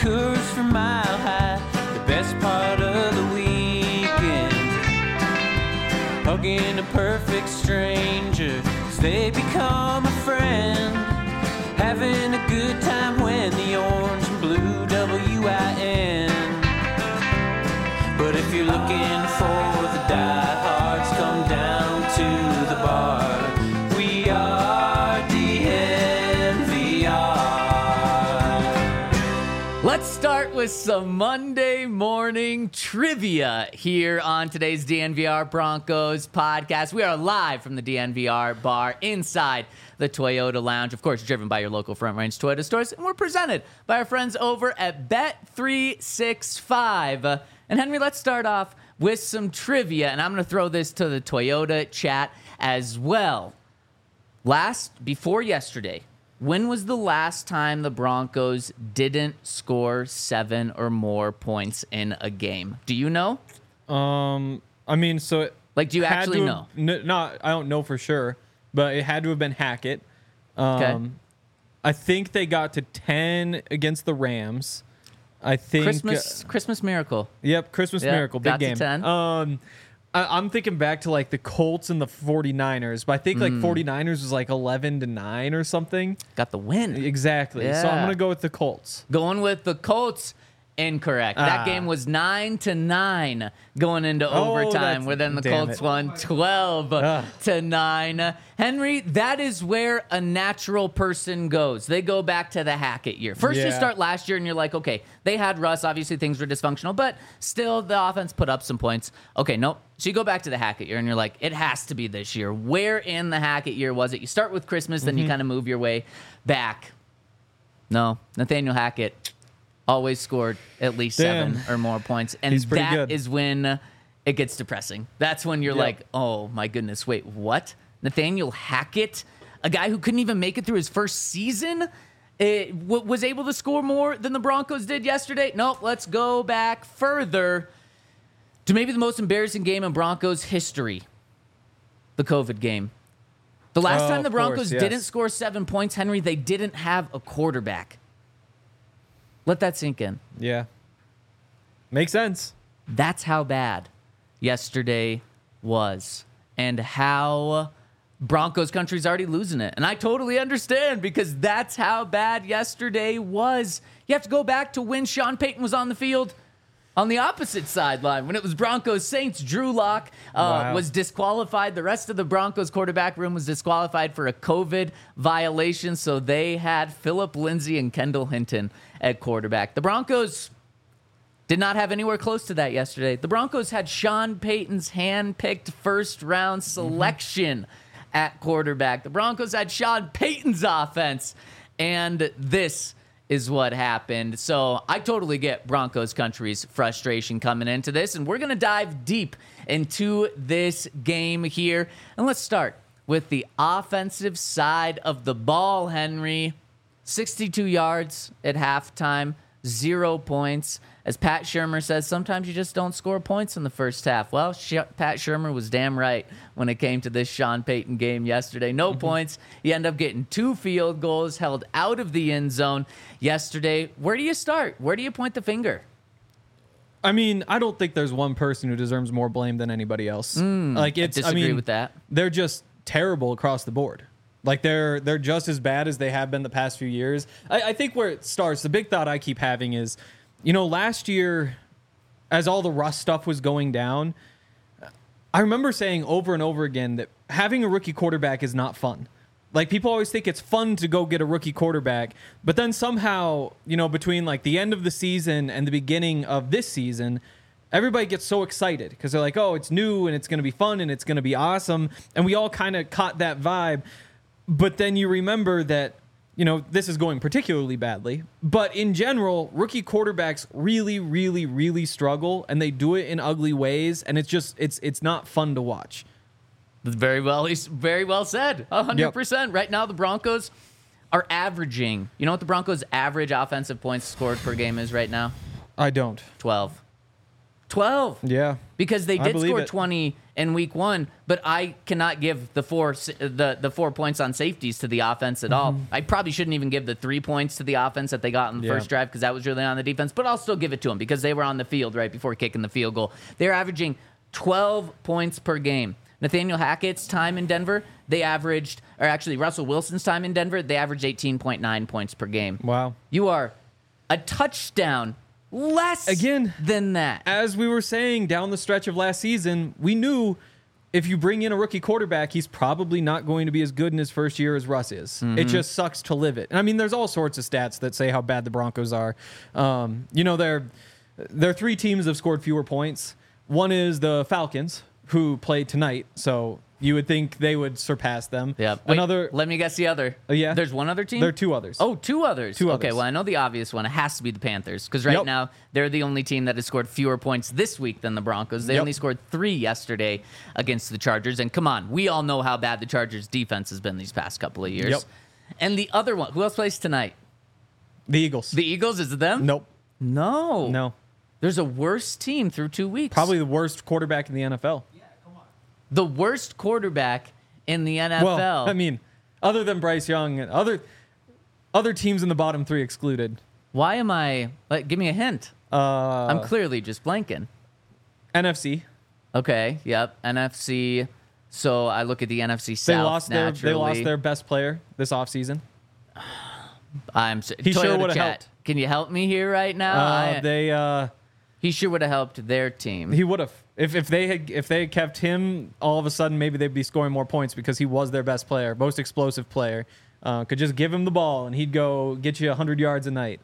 Coors from Mile High, the best part of the weekend. Hugging a perfect stranger as they become a friend. Having a good time when the orange and blue WIN. But if you're looking for the diehards, come down to the bar. We are DNVR. Let's start with some Monday morning trivia here on today's DNVR Broncos podcast. We are live from the DNVR bar inside the Toyota Lounge, of course, driven by your local Front Range Toyota stores, and we're presented by our friends over at Bet365. And Henry, let's start off with some trivia, and I'm going to throw this to the Toyota chat as well. Before yesterday, when was the last time the Broncos didn't score 7 or more points in a game? Do you know? Do you actually know? No, I don't know for sure, but it had to have been Hackett. Okay. I think they got to 10 against the Rams. I think Christmas Miracle. Yep, Christmas Miracle, big got game. To 10. I'm thinking back to like the Colts and the 49ers, but I think like 49ers was like 11-9 or something. Got the win. Exactly. Yeah. So I'm gonna go with the Colts. Going with the Colts. Incorrect. That game was 9-9 going into overtime, where then the Colts won 12-9. Henry, that is where a natural person goes. They go back to the Hackett year. First, you start last year, and you're like, okay, they had Russ. Obviously, things were dysfunctional, but still, the offense put up some points. Okay, nope. So you go back to the Hackett year, and you're like, it has to be this year. Where in the Hackett year was it? You start with Christmas, then you kind of move your way back. No, Nathaniel Hackett always scored at least 7 or more points. And that is when it gets depressing. That's when you're like, oh, my goodness, wait, what? Nathaniel Hackett, a guy who couldn't even make it through his first season, was able to score more than the Broncos did yesterday? Nope, let's go back further to maybe the most embarrassing game in Broncos history, the COVID game. The last time the Broncos didn't score 7 points, Henry, they didn't have a quarterback. Let that sink in. Yeah. Makes sense. That's how bad yesterday was, and how Broncos country's already losing it. And I totally understand, because that's how bad yesterday was. You have to go back to when Sean Payton was on the field on the opposite sideline, when it was Broncos Saints. Drew Lock was disqualified. The rest of the Broncos quarterback room was disqualified for a COVID violation, so they had Phillip Lindsay and Kendall Hinton at quarterback. The Broncos did not have anywhere close to that yesterday. The Broncos had Sean Payton's hand-picked first-round selection at quarterback. The Broncos had Sean Payton's offense, and this is what happened. So I totally get Broncos country's frustration coming into this, and we're going to dive deep into this game here. And let's start with the offensive side of the ball, Henry. 62 yards at halftime, 0 points. As Pat Shurmur says, sometimes you just don't score points in the first half. Well, Pat Shurmur was damn right when it came to this Sean Payton game yesterday. No points. You end up getting 2 field goals, held out of the end zone yesterday. Where do you start? Where do you point the finger? I mean, I don't think there's one person who deserves more blame than anybody else. I disagree with that. They're just terrible across the board. Like, they're just as bad as they have been the past few years. I think where it starts, the big thought I keep having is, last year, as all the Russ stuff was going down, I remember saying over and over again that having a rookie quarterback is not fun. Like, people always think it's fun to go get a rookie quarterback, but then somehow, between like the end of the season and the beginning of this season, everybody gets so excited because they're like, oh, it's new and it's going to be fun and it's going to be awesome. And we all kind of caught that vibe. But then you remember that, this is going particularly badly. But in general, rookie quarterbacks really, really, really struggle, and they do it in ugly ways. And it's not fun to watch. Very well said. 100%. Yep. Right now, the Broncos are averaging. You know what the Broncos' average offensive points scored per game is right now? I don't. 12. 12. Yeah. Because they I did believe score it. 20 in week 1, but I cannot give the 4 points on safeties to the offense at all. I probably shouldn't even give the 3 points to the offense that they got in the Yeah. first drive because that was really on the defense, but I'll still give it to them because they were on the field right before kicking the field goal. They're averaging 12 points per game. Nathaniel Hackett's time in Denver, Russell Wilson's time in Denver, they averaged 18.9 points per game. Wow. You are a touchdown less Again, than that. As we were saying down the stretch of last season, we knew if you bring in a rookie quarterback, he's probably not going to be as good in his first year as Russ is. Mm-hmm. It just sucks to live it. And I mean, there's all sorts of stats that say how bad the Broncos are. There are 3 teams that have scored fewer points. One is the Falcons, who played tonight, so you would think they would surpass them. Yeah. Wait, Another. let me guess the other. Yeah. There's one other team? There are 2 others. Oh, 2 others. Two Okay, others. well, I know the obvious one. It has to be the Panthers because right Yep. now they're the only team that has scored fewer points this week than the Broncos. They Yep. only scored 3 yesterday against the Chargers. And come on, we all know how bad the Chargers' defense has been these past couple of years. Yep. And the other one, who else plays tonight? The Eagles. The Eagles, is it them? Nope. No. No. There's a worse team through 2 weeks. Probably the worst quarterback in the NFL. the worst quarterback in the NFL. Well, I mean, other than Bryce Young, and other teams in the bottom 3 excluded. Why am I? Give me a hint. I'm clearly just blanking. NFC. Okay. Yep. NFC. So I look at the NFC South. They lost their best player this offseason. He sure Toyota would've Chat. helped. Can you help me here right now? He sure would have helped their team. He would have. If they had kept him, all of a sudden maybe they'd be scoring more points because he was their best player, most explosive player. Could just give him the ball and he'd go get you 100 yards a night.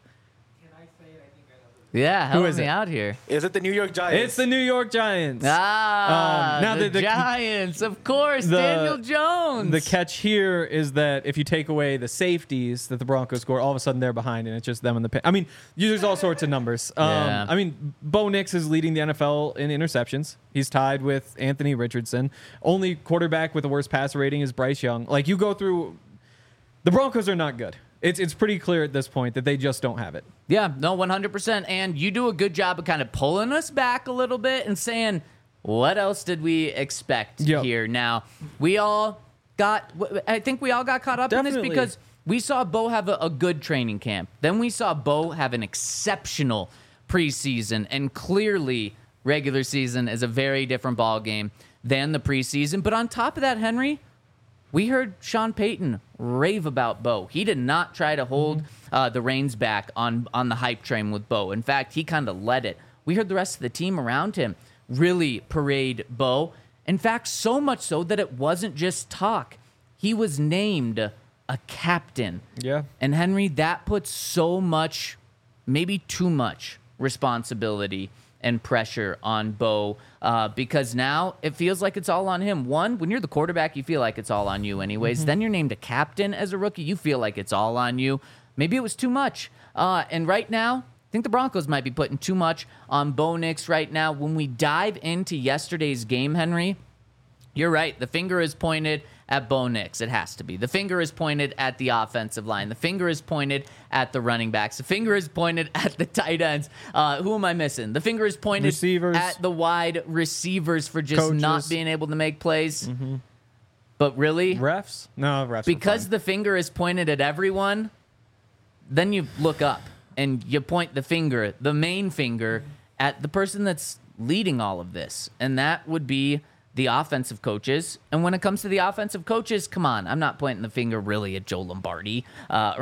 Yeah, help is me it? out here. Is it the New York Giants? It's the New York Giants. Now the- the the- Giants, of course, the- Daniel Jones. The catch here is that if you take away the safeties that the Broncos score, all of a sudden they're behind, and it's just them in the pit. I mean, there's all sorts of numbers. Yeah. I mean, Bo Nix is leading the NFL in interceptions. He's tied with Anthony Richardson. Only quarterback with the worst passer rating is Bryce Young. Like, you go through, the Broncos are not good. It's pretty clear at this point that they just don't have it. Yeah, no, 100%. And you do a good job of kind of pulling us back a little bit and saying, what else did we expect Yep. here? Now, I think we all got caught up in Definitely. this because we saw Bo have a good training camp. Then we saw Bo have an exceptional preseason. And clearly, regular season is a very different ball game than the preseason. But on top of that, Henry, we heard Sean Payton rave about Bo. He did not try to hold the reins back on the hype train with Bo. In fact, he kind of led it. We heard the rest of the team around him really parade Bo. In fact, so much so that it wasn't just talk. He was named a captain. Yeah. And Henry, that puts so much, maybe too much responsibility and pressure on Bo because now it feels like it's all on him. One, when you're the quarterback, you feel like it's all on you anyways. Then you're named a captain as a rookie. You feel like it's all on you. Maybe it was too much. And right now, I think the Broncos might be putting too much on Bo Nix right now. When we dive into yesterday's game, Henry, you're right. The finger is pointed at Bo Nix. It has to be. The finger is pointed at the offensive line. The finger is pointed at the running backs. The finger is pointed at the tight ends. Who am I missing? The finger is pointed Receivers. at the wide receivers for just Coaches. not being able to make plays. But really, Refs? No, refs. because the finger is pointed at everyone, then you look up and you point the finger, the main finger, at the person that's leading all of this. And that would be the offensive coaches. And when it comes to the offensive coaches, come on, I'm not pointing the finger really at Joe Lombardi or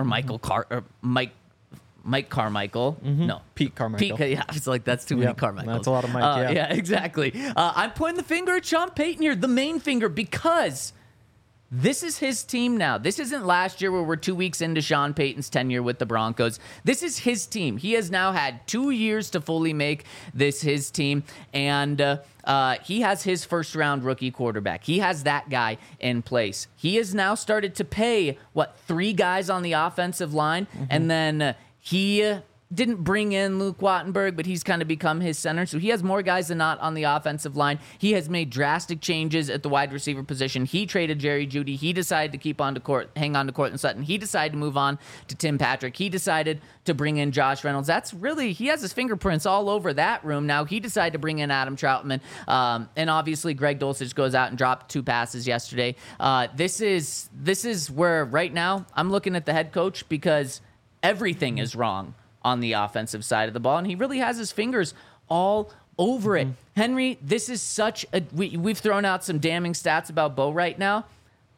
Mike Carmichael. No. Pete Carmichael. Yeah, it's like that's too many Yep, Carmichaels. that's a lot of Mike, yeah. Exactly. I'm pointing the finger at Sean Payton here, the main finger, because this is his team now. This isn't last year where we're 2 weeks into Sean Payton's tenure with the Broncos. This is his team. He has now had 2 years to fully make this his team, and he has his first-round rookie quarterback. He has that guy in place. He has now started to pay, 3 guys on the offensive line, and then he didn't bring in Luke Wattenberg, but he's kind of become his center. So he has more guys than not on the offensive line. He has made drastic changes at the wide receiver position. He traded Jerry Jeudy. He decided to hang on to Courtland Sutton. He decided to move on to Tim Patrick. He decided to bring in Josh Reynolds. He has his fingerprints all over that room. Now he decided to bring in Adam Troutman. And obviously Greg Dulcich goes out and dropped 2 passes yesterday. This is where right now I'm looking at the head coach because everything is wrong on the offensive side of the ball, and he really has his fingers all over it. Henry, this is such a... We've thrown out some damning stats about Bo right now.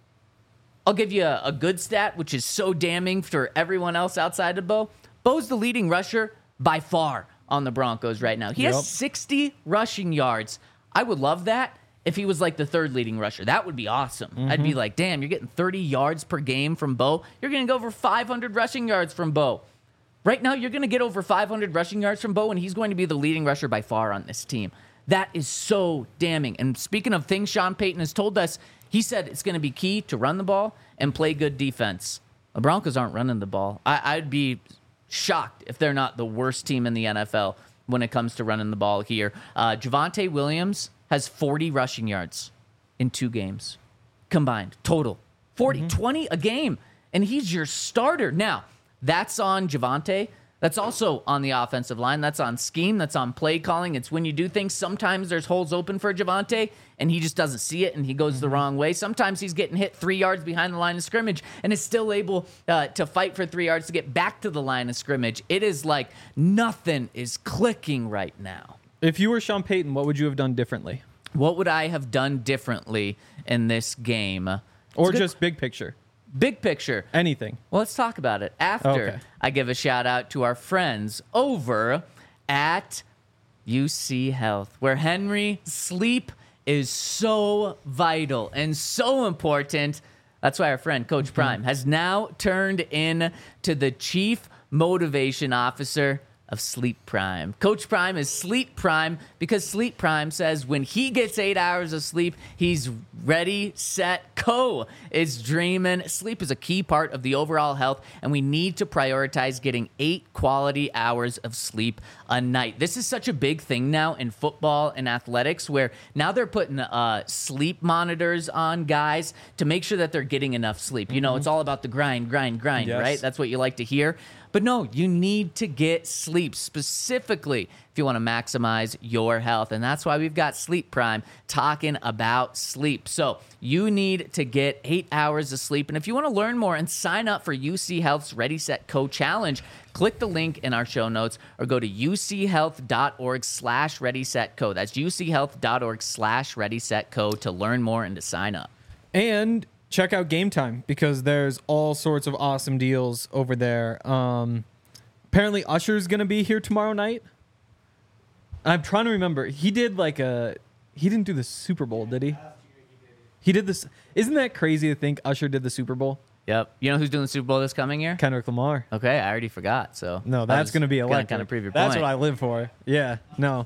I'll give you a good stat, which is so damning for everyone else outside of Bo. Bo's the leading rusher by far on the Broncos right now. He has 60 rushing yards. I would love that if he was like the 3rd leading rusher. That would be awesome. I'd be like, damn, you're getting 30 yards per game from Bo. You're going to go over 500 rushing yards from Bo. Right now, you're going to get over 500 rushing yards from Bo, and he's going to be the leading rusher by far on this team. That is so damning. And speaking of things Sean Payton has told us, he said it's going to be key to run the ball and play good defense. The Broncos aren't running the ball. I'd be shocked if they're not the worst team in the NFL when it comes to running the ball here. Javonte Williams has 40 rushing yards in 2 games combined, total. 20 a game, and he's your starter. Now, that's on Javonte. That's also on the offensive line. That's on scheme. That's on play calling. It's when you do things. Sometimes there's holes open for Javonte, and he just doesn't see it, and he goes the wrong way. Sometimes he's getting hit 3 yards behind the line of scrimmage and is still able to fight for 3 yards to get back to the line of scrimmage. It is like nothing is clicking right now. If you were Sean Payton, what would you have done differently? What would I have done differently in this game? Or just big picture? Big picture. Anything. Well, let's talk about it after I give a shout out to our friends over at UC Health, where Henry, sleep is so vital and so important. That's why our friend Coach Prime has now turned in to the Chief Motivation Officer of Sleep Prime. Coach Prime is Sleep Prime because Sleep Prime says when he gets 8 hours of sleep, he's ready, set, go. Is dreaming. Sleep is a key part of the overall health, and we need to prioritize getting 8 quality hours of sleep a night. This is such a big thing now in football and athletics, where now they're putting sleep monitors on guys to make sure that they're getting enough sleep. You know, it's all about the grind, yes, right? That's what you like to hear. But no, you need to get sleep specifically if you want to maximize your health. And that's why we've got Sleep Prime talking about sleep. So you need to get 8 hours of sleep. And if you want to learn more and sign up for UC Health's Ready, Set, Co Challenge, click the link in our show notes or go to uchealth.org/readysetco. That's uchealth.org/readysetco to learn more and to sign up. And check out Game Time because there's all sorts of awesome deals over there. Apparently Usher's going to be here tomorrow night. I'm trying to remember. He did he didn't do the Super Bowl, did he? He did this. Isn't that crazy to think Usher did the Super Bowl? Yep. You know who's doing the Super Bowl this coming year? Kendrick Lamar. Okay, I already forgot. So no, that's going to be electric. Kind of prove your That's point. what I live for. Yeah. No.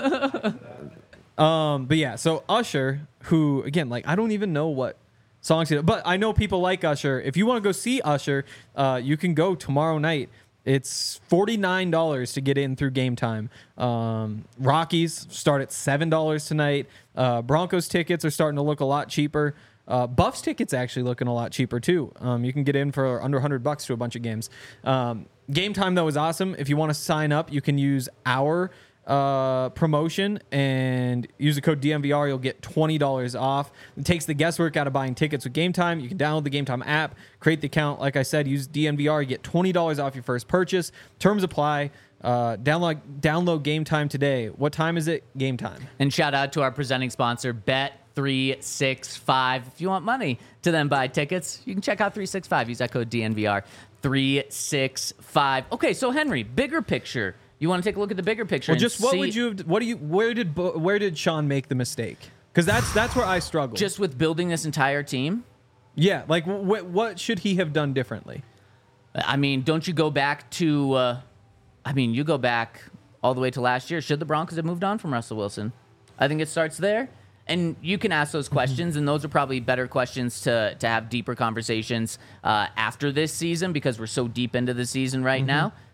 But yeah. So Usher, who again, I don't even know what songs he did, but I know people like Usher. If you want to go see Usher, you can go tomorrow night. It's $49 to get in through Game Time. Rockies start at $7 tonight. Broncos tickets are starting to look a lot cheaper. Buffs tickets actually looking a lot cheaper too. You can get in for under $100 to a bunch of games. Game Time though is awesome. If you want to sign up, you can use our promotion and use the code DMVR. You'll get $20 off. It takes the guesswork out of buying tickets with Game Time. You can download the Game Time app, create the account. Like I said, use DMVR. You get $20 off your first purchase. Terms apply. Download Game Time today. What time is it? Game Time. And shout out to our presenting sponsor, Bet365. If you want money to then buy tickets, you can check out 365. Use that code DNVR 365. Okay, so Henry, bigger picture. You want to take a look at the bigger picture? Well, just what would you have? Where did Sean make the mistake? Because that's where I struggle. Just with building this entire team. Yeah, what should he have done differently? I mean, don't you go back to? You go back all the way to last year. Should the Broncos have moved on from Russell Wilson? I think it starts there. And you can ask those questions, and those are probably better questions to have deeper conversations after this season because we're so deep into the season right now.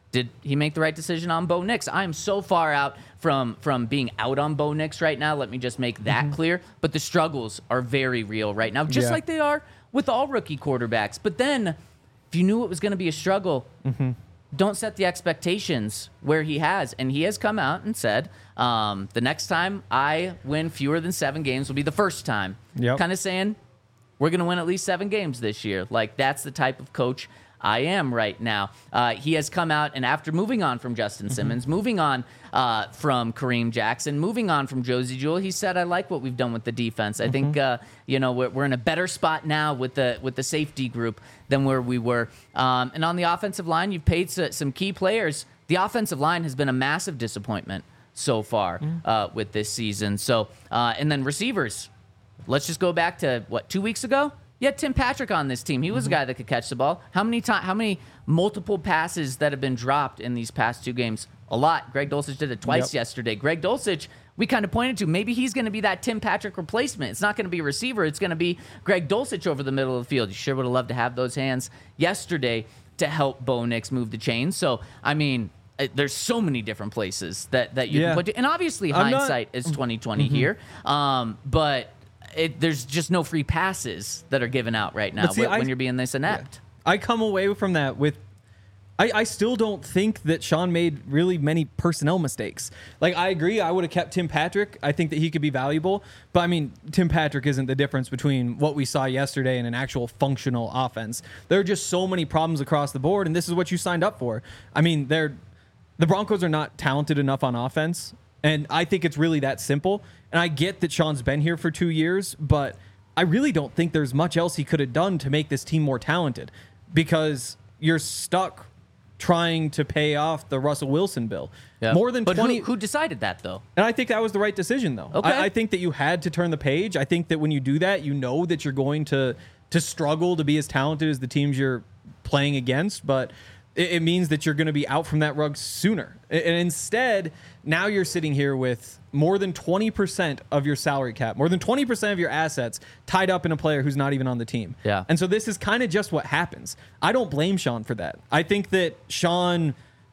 Did he make the right decision on Bo Nix? I am so far out from being out on Bo Nix right now. Let me just make that clear. But the struggles are very real right now, just like they are with all rookie quarterbacks. But then, if you knew it was going to be a struggle, don't set the expectations where he has. And he has come out and said, the next time I win fewer than 7 games will be the first time. Kind of saying, we're going to win at least 7 games this year. Like, that's the type of coach I am right now. He has come out, and after moving on from Justin Simmons, moving on from Kareem Jackson, moving on from Josie Jewell, he said, I like what we've done with the defense. I think, we're in a better spot now with the safety group than where we were. And on the offensive line, you've paid some key players. The offensive line has been a massive disappointment so far with this season. So, and then receivers. Let's just go back to, 2 weeks ago? You had Tim Patrick on this team. He was a guy that could catch the ball. How many multiple passes that have been dropped in these past 2 games? A lot. Greg Dulcich did it twice yesterday. Greg Dulcich, we kind of pointed to, maybe he's going to be that Tim Patrick replacement. It's not going to be a receiver. It's going to be Greg Dulcich over the middle of the field. You sure would have loved to have those hands yesterday to help Bo Nix move the chains. So, I mean, there's so many different places that you can put to. And obviously, hindsight is 20/20 here. But there's just no free passes that are given out right now when you're being this inept. I come away from that with, I still don't think that Sean made really many personnel mistakes. Like, I agree, I would have kept Tim Patrick. I think that he could be valuable. But, I mean, Tim Patrick isn't the difference between what we saw yesterday and an actual functional offense. There are just so many problems across the board, and this is what you signed up for. I mean, the Broncos are not talented enough on offense. And I think it's really that simple. And I get that Sean's been here for 2 years, but I really don't think there's much else he could have done to make this team more talented, because you're stuck trying to pay off the Russell Wilson bill. More than 20. Who decided that, though? And I think that was the right decision, though. Okay. I think that you had to turn the page. I think that when you do that, you know that you're going to struggle to be as talented as the teams you're playing against, but it means that you're going to be out from that rug sooner. And instead, now you're sitting here with more than 20% of your salary cap, more than 20% of your assets tied up in a player who's not even on the team. Yeah. And so this is kind of just what happens. I don't blame Sean for that. I think that Sean,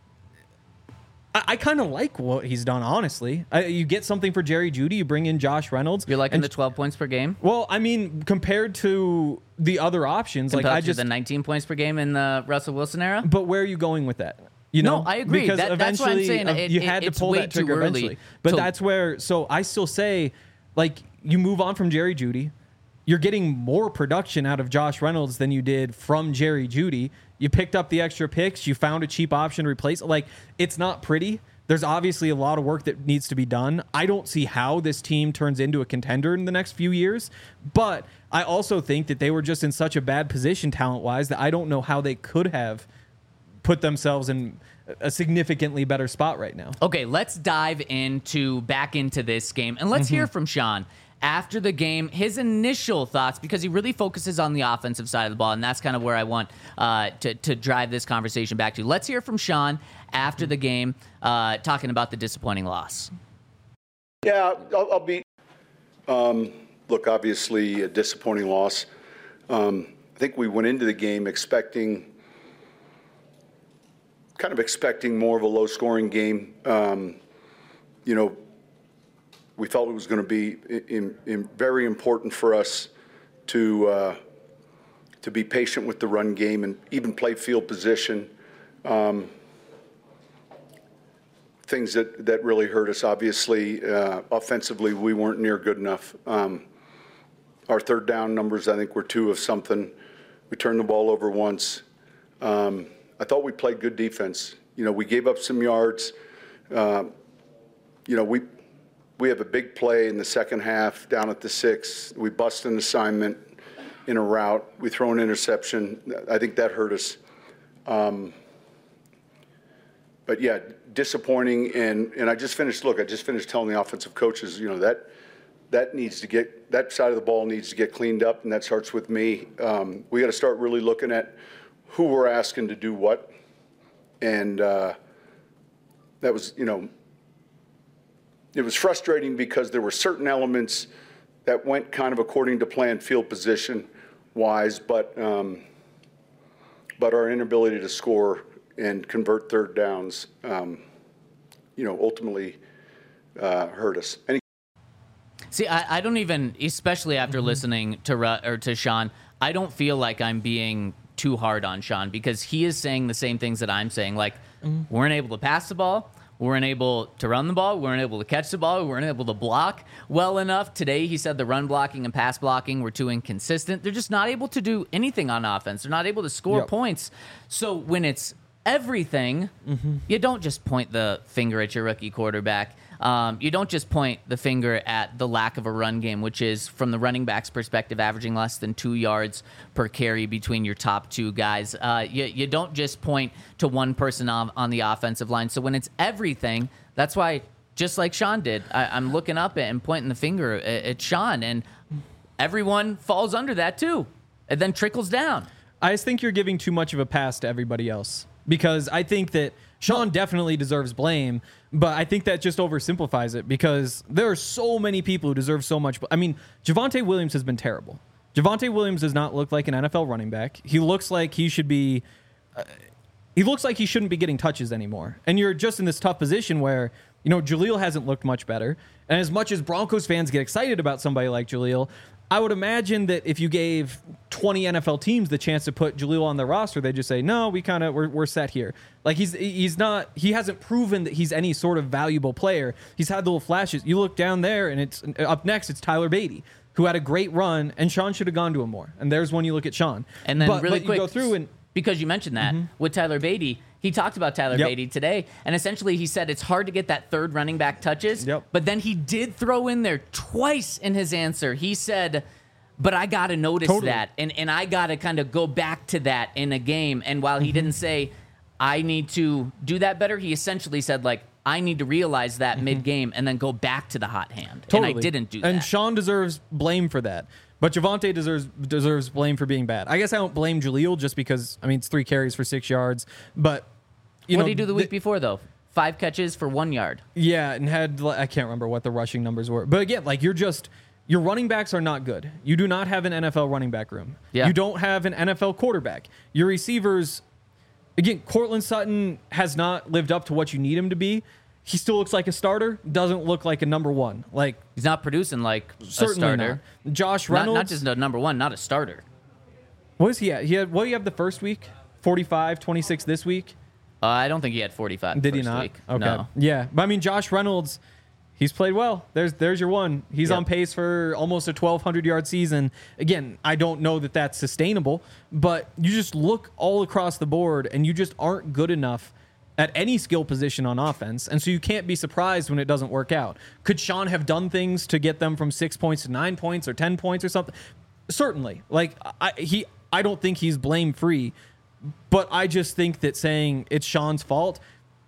I kind of like what he's done, honestly. You get something for Jerry Jeudy, you bring in Josh Reynolds. You're liking the 12 points per game? Well, I mean, compared to the other options, compared to the 19 points per game in the Russell Wilson era? But where are you going with that? You know, no, I agree. Because that's what I'm saying. You had to pull that trigger eventually. But that's where, so I still say, like, you move on from Jerry Jeudy. You're getting more production out of Josh Reynolds than you did from Jerry Jeudy. You picked up the extra picks. You found a cheap option to replace. Like, it's not pretty. There's obviously a lot of work that needs to be done. I don't see how this team turns into a contender in the next few years. But I also think that they were just in such a bad position talent-wise that I don't know how they could have put themselves in a significantly better spot right now. Okay, let's dive back into this game, and let's hear from Sean after the game, his initial thoughts, because he really focuses on the offensive side of the ball, and that's kind of where I want to drive this conversation back to. Let's hear from Sean after the game, talking about the disappointing loss. Yeah, I'll be. Look, obviously a disappointing loss. I think we went into the game expecting more of a low-scoring game. We felt it was going to be very important for us to be patient with the run game and even play field position. Things that really hurt us, obviously. Offensively, we weren't near good enough. Our third down numbers, I think, were 2 of something. We turned the ball over once. I thought we played good defense. We gave up some yards. We have a big play in the second half down at the 6. We bust an assignment in a route. We throw an interception. I think that hurt us. But yeah, disappointing. And I just finished telling the offensive coaches, that needs to get, that side of the ball needs to get cleaned up, and that starts with me. We got to start really looking at who we're asking to do what. And that was, it was frustrating because there were certain elements that went kind of according to plan field position wise, but our inability to score, and convert third downs, ultimately hurt us. See, I don't even, especially after listening to Sean, I don't feel like I'm being too hard on Sean because he is saying the same things that I'm saying. Like, we weren't able to pass the ball. We weren't able to run the ball. We weren't able to catch the ball. We weren't able to block well enough. Today, he said the run blocking and pass blocking were too inconsistent. They're just not able to do anything on offense. They're not able to score points. So when it's everything, you don't just point the finger at your rookie quarterback. You don't just point the finger at the lack of a run game, which is, from the running back's perspective, averaging less than 2 yards per carry between your top two guys. You don't just point to one person on the offensive line. So when it's everything, that's why, just like Sean did, I'm looking up and pointing the finger at Sean, and everyone falls under that too. It then trickles down. I just think you're giving too much of a pass to everybody else, because I think that Sean definitely deserves blame, but I think that just oversimplifies it, because there are so many people who deserve so much. I mean, Javonte Williams has been terrible. Javonte Williams does not look like an NFL running back. He looks like he should be. He looks like he shouldn't be getting touches anymore. And you're just in this tough position where, Jaleel hasn't looked much better. And as much as Broncos fans get excited about somebody like Jaleel, I would imagine that if you gave 20 NFL teams the chance to put Jaleel on their roster, they'd just say, no, we're set here. Like, he hasn't proven that he's any sort of valuable player. He's had little flashes. You look down there, and it's up next, it's Tyler Beatty, who had a great run, and Sean should have gone to him more. And there's when you look at Sean. And then really quick, you go through and, because you mentioned that with Tyler Beatty, he talked about Tyler Beatty today, and essentially he said it's hard to get that third running back touches, but then he did throw in there twice in his answer. He said, but I got to notice that, and I got to kind of go back to that in a game. And while he didn't say, I need to do that better, he essentially said, like, I need to realize that mid-game and then go back to the hot hand. And I didn't do that. And Sean deserves blame for that. But Javonte deserves blame for being bad. I guess I don't blame Jaleel just because, it's 3 carries for 6 yards. But, what did he do the week before, though? 5 catches for 1 yard. Yeah, and I can't remember what the rushing numbers were. But again, like, your running backs are not good. You do not have an NFL running back room. Yeah. You don't have an NFL quarterback. Your receivers, again, Courtland Sutton has not lived up to what you need him to be. He still looks like a starter, doesn't look like a number one. Like, he's not producing like a starter. Not. Josh Reynolds. Not just a number one, not a starter. What is he at? What do you have the first week? 45, 26 this week? I don't think he had 45 Did he not? week. Okay. No. Yeah. But Josh Reynolds, he's played well. There's your one. He's on pace for almost a 1,200-yard season. Again, I don't know that that's sustainable, but you just look all across the board, and you just aren't good enough at any skill position on offense, and so you can't be surprised when it doesn't work out. Could Sean have done things to get them from 6 points to 9 points or 10 points or something? Certainly. Like, I don't think he's blame-free, but I just think that saying it's Sean's fault,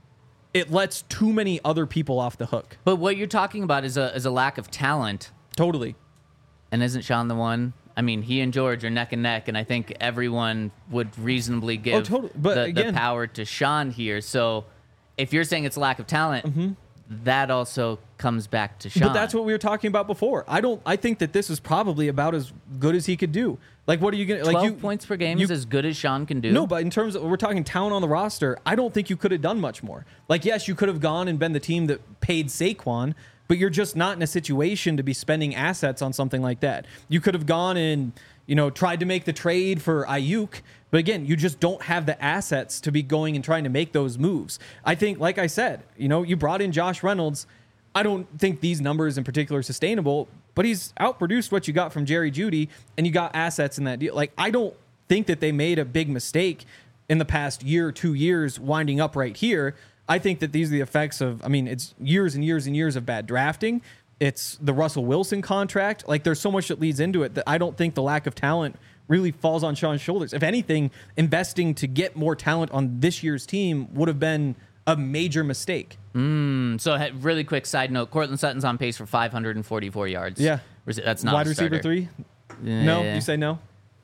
it lets too many other people off the hook. But what you're talking about is a lack of talent. Totally. And isn't Sean the one? He and George are neck and neck, and I think everyone would reasonably give the power to Sean here. So if you're saying it's a lack of talent, that also comes back to Sean. But that's what we were talking about before. I think that this is probably about as good as he could do. Like, what are you going to... 12 points per game is as good as Sean can do? No, but in terms of... We're talking talent on the roster. I don't think you could have done much more. Like, yes, you could have gone and been the team that paid Saquon, but you're just not in a situation to be spending assets on something like that. You could have gone and, tried to make the trade for Ayuk, but again, you just don't have the assets to be going and trying to make those moves. I think, like I said, you brought in Josh Reynolds. I don't think these numbers in particular are sustainable, but he's outproduced what you got from Jerry Jeudy, and you got assets in that deal. Like, I don't think that they made a big mistake in the past year, 2 years, winding up right here. I think that these are the effects of, it's years and years and years of bad drafting. It's the Russell Wilson contract. Like, there's so much that leads into it that I don't think the lack of talent really falls on Sean's shoulders. If anything, investing to get more talent on this year's team would have been a major mistake. So, really quick side note, Courtland Sutton's on pace for 544 yards. Yeah. That's not wide a receiver 3? No? You say no?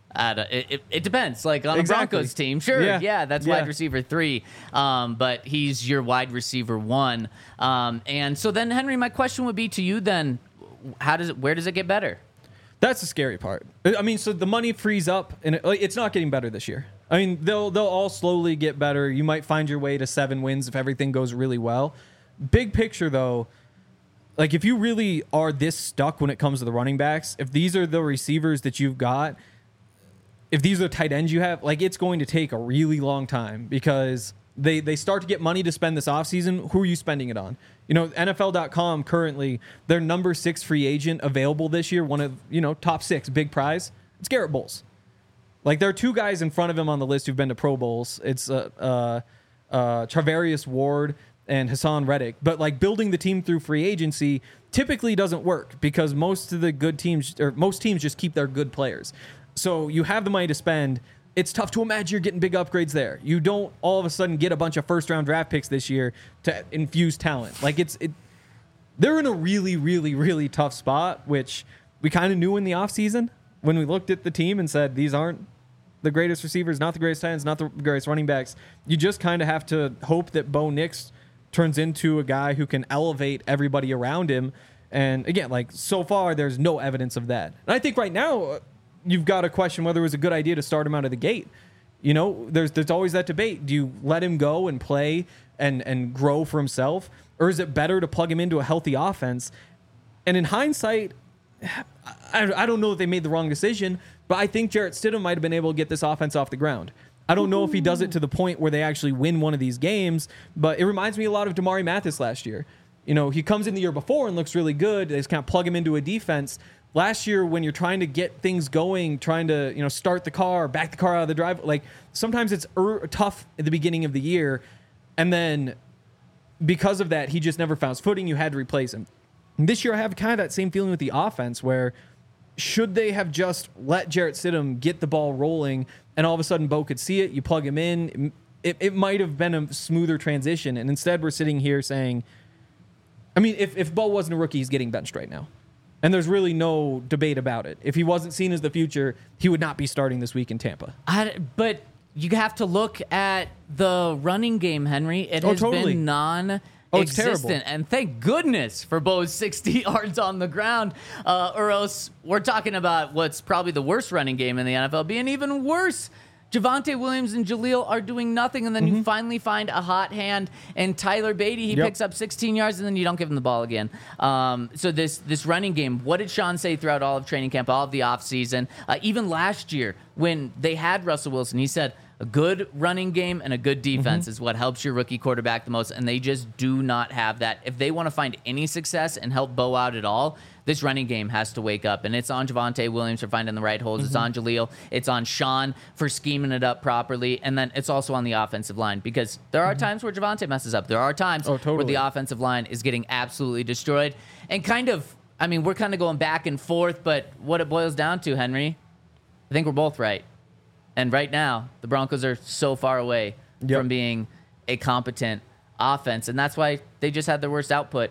It depends. Like, on a Broncos team, sure, that's wide receiver 3, but he's your wide receiver 1. And so then, Henry, my question would be to you then, where does it get better? That's the scary part. So the money frees up, and it's not getting better this year. I mean, they'll all slowly get better. You might find your way to 7 wins if everything goes really well. Big picture, though, like if you really are this stuck when it comes to the running backs, if these are the receivers that you've got, if these are the tight ends you have, like it's going to take a really long time because they start to get money to spend this offseason. Who are you spending it on? You know, NFL.com currently, their number 6 free agent available this year, one of, top 6, big prize, it's Garrett Bowles. Like there are 2 guys in front of him on the list who've been to Pro Bowls. It's Charvarius Ward and Hassan Reddick. But like building the team through free agency typically doesn't work because most teams just keep their good players. So you have the money to spend. It's tough to imagine you're getting big upgrades there. You don't all of a sudden get a bunch of first-round draft picks this year to infuse talent. Like they're in a really, really, really tough spot, which we kind of knew in the offseason when we looked at the team and said, these aren't the greatest receivers, not the greatest tight ends, not the greatest running backs. You just kind of have to hope that Bo Nix turns into a guy who can elevate everybody around him. And again, like so far, there's no evidence of that. And I think right now, you've got to question whether it was a good idea to start him out of the gate. There's always that debate. Do you let him go and play and grow for himself? Or is it better to plug him into a healthy offense? And in hindsight, I don't know if they made the wrong decision, but I think Jarrett Stidham might have been able to get this offense off the ground. I don't know if he does it to the point where they actually win one of these games, but it reminds me a lot of Damari Mathis last year. He comes in the year before and looks really good. They just kind of plug him into a defense. Last year, when you're trying to get things going, trying to start the car, back the car out of the drive, like sometimes it's tough at the beginning of the year, and then because of that, he just never found his footing. You had to replace him. And this year, I have kind of that same feeling with the offense, where should they have just let Jarrett Stidham get the ball rolling, and all of a sudden Bo could see it, you plug him in, it might have been a smoother transition. And instead, we're sitting here saying, I mean, if Bo wasn't a rookie, he's getting benched right now. And there's really no debate about it. If he wasn't seen as the future, he would not be starting this week in Tampa. But you have to look at the running game, Henry. It has been non-existent. And thank goodness for Bo's 60 yards on the ground. Or else we're talking about what's probably the worst running game in the NFL being even worse. Javonte Williams and Jaleel are doing nothing, and then you finally find a hot hand, and Tyler Beatty, he picks up 16 yards, and then you don't give him the ball again. So this running game, what did Sean say throughout all of training camp, all of the offseason? Even last year when they had Russell Wilson, he said, a good running game and a good defense is what helps your rookie quarterback the most, and they just do not have that. If they want to find any success and help Bo out at all, this running game has to wake up, and it's on Javonte Williams for finding the right holes. It's on Jaleel. It's on Sean for scheming it up properly, and then it's also on the offensive line because there are times where Javonte messes up. There are times where the offensive line is getting absolutely destroyed. And we're kind of going back and forth, but what it boils down to, Henry, I think we're both right. And right now, the Broncos are so far away from being a competent offense, and that's why they just had their worst output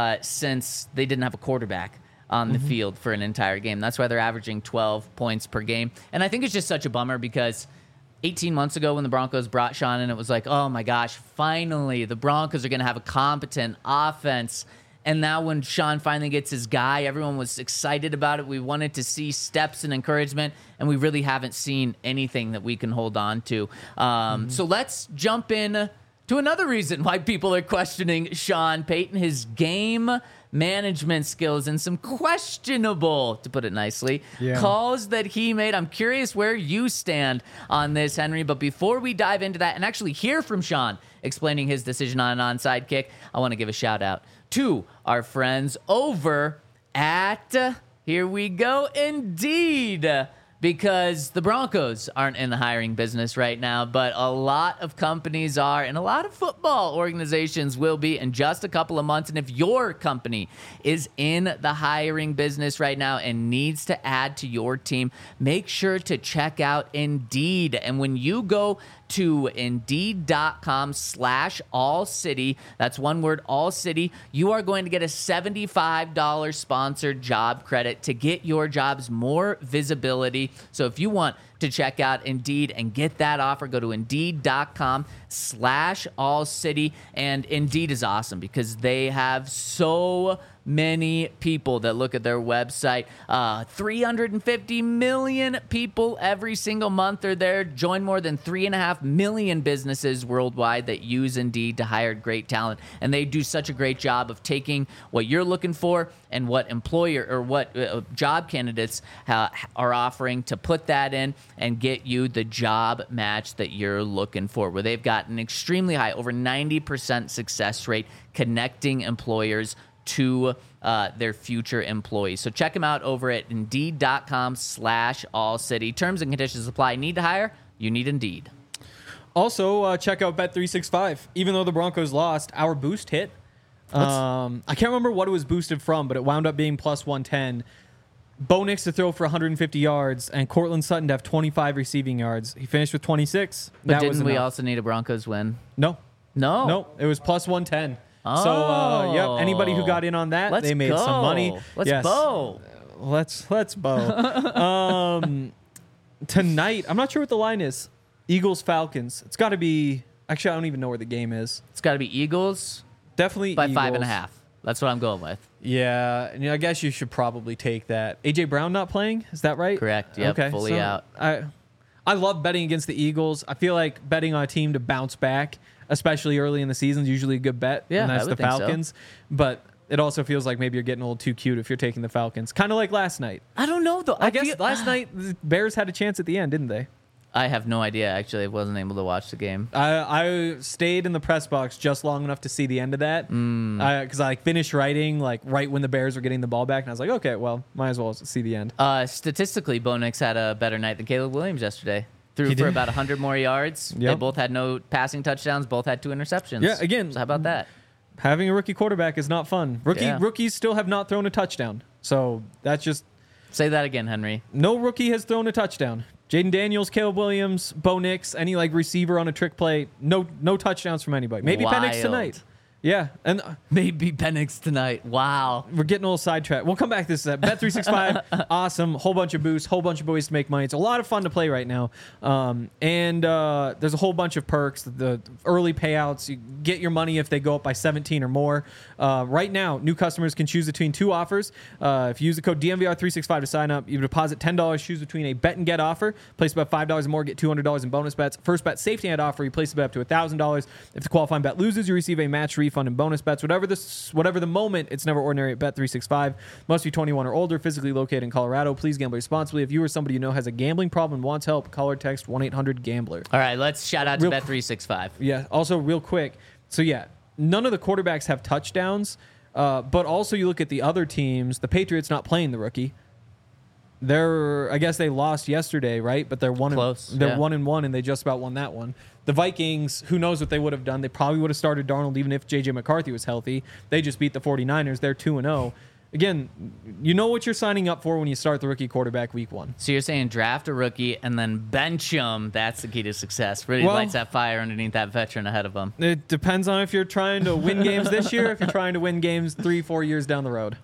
since they didn't have a quarterback on the field for an entire game. That's why they're averaging 12 points per game. And I think it's just such a bummer because 18 months ago when the Broncos brought Sean in, it was like, oh my gosh, finally the Broncos are going to have a competent offense. And now when Sean finally gets his guy, everyone was excited about it. We wanted to see steps and encouragement, and we really haven't seen anything that we can hold on to. So let's jump in to another reason why people are questioning Sean Payton, his game management skills and some questionable, to put it nicely, calls that he made. I'm curious where you stand on this, Henry. But before we dive into that and actually hear from Sean explaining his decision on an onside kick, I want to give a shout out to our friends over at, here we go, Indeed. Because the Broncos aren't in the hiring business right now, but a lot of companies are, and a lot of football organizations will be in just a couple of months. And if your company is in the hiring business right now and needs to add to your team, make sure to check out Indeed. And when you go to Indeed.com/AllCity, that's one word, All City, you are going to get a $75 sponsored job credit to get your jobs more visibility. So if you want to check out Indeed and get that offer. Go to Indeed.com/AllCity. And Indeed is awesome because they have so many people that look at their website. 350 million people every single month are there. Join more than 3.5 million businesses worldwide that use Indeed to hire great talent. And they do such a great job of taking what you're looking for and what employer or what job candidates are offering to put that in and get you the job match that you're looking for, where they've got an extremely high, over 90% success rate connecting employers to their future employees. So check them out over at Indeed.com/AllCity. Terms and conditions apply. Need to hire? You need Indeed. Also, check out Bet365. Even though the Broncos lost, our boost hit. I can't remember what it was boosted from, but it wound up being plus 110. Bo Nix to throw for 150 yards, and Cortland Sutton to have 25 receiving yards. He finished with 26. But didn't we also need a Broncos win? No. No. No, it was plus 110. So, yep, anybody who got in on that, they made some money. Let's bow. Let's bow. Tonight, I'm not sure what the line is. Eagles-Falcons. It's got to be... Actually, I don't even know where the game is. It's got to be Eagles. Definitely by Eagles. 5.5. That's what I'm going with. Yeah, and I guess you should probably take that. A.J. Brown not playing? Is that right? Correct. Yep, okay, fully out. I love betting against the Eagles. I feel like betting on a team to bounce back, especially early in the season, is usually a good bet. Yeah, and that's I the would think so. Falcons. But it also feels like maybe you're getting a little too cute if you're taking the Falcons. Kind of like last night. I don't know, though. I guess last night the Bears had a chance at the end, didn't they? I have no idea. Actually, I wasn't able to watch the game. I stayed in the press box just long enough to see the end of that because I finished writing right when the Bears were getting the ball back, and I was like, okay, well, might as well see the end. Statistically, Bo Nix had a better night than Caleb Williams yesterday. Threw for about 100 more yards. Yep. They both had no passing touchdowns. Both had 2 interceptions. Yeah, again, so how about that? Having a rookie quarterback is not fun. Rookies still have not thrown a touchdown, so that's just... Say that again, Henry. No rookie has thrown a touchdown. Jaden Daniels, Caleb Williams, Bo Nix, any receiver on a trick play, no touchdowns from anybody. Maybe Penix tonight. Yeah, and maybe Penix tonight. Wow, we're getting a little sidetracked. We'll come back to this. Bet365, awesome. Whole bunch of boosts, whole bunch of ways to make money. It's a lot of fun to play right now, and there's a whole bunch of perks. The early payouts, you get your money if they go up by 17 or more. Right now, new customers can choose between 2 offers. If you use the code DMVR365 to sign up, you deposit $10, choose between a bet and get offer, place about $5 or more, get $200 in bonus bets. First bet safety net offer, you place a bet up to $1,000. If the qualifying bet loses, you receive a match refund and bonus bets. Whatever the moment, it's never ordinary at Bet365. Must be 21 or older, physically located in Colorado. Please gamble responsibly. If you or somebody you know has a gambling problem and wants help, call or text 1-800-GAMBLER. All right, let's shout out to Bet365. Yeah, also real quick. So yeah, none of the quarterbacks have touchdowns, but also you look at the other teams, the Patriots not playing the rookie. I guess they lost yesterday, right? But they're 1-1, and they just about won that one. The Vikings, who knows what they would have done? They probably would have started Darnold even if J.J. McCarthy was healthy. They just beat the 49ers. They're 2-0. Again, you know what you're signing up for when you start the rookie quarterback week 1. So you're saying draft a rookie and then bench him. That's the key to success. Really lights that fire underneath that veteran ahead of him. It depends on if you're trying to win games this year, if you're trying to win games 3-4 years down the road.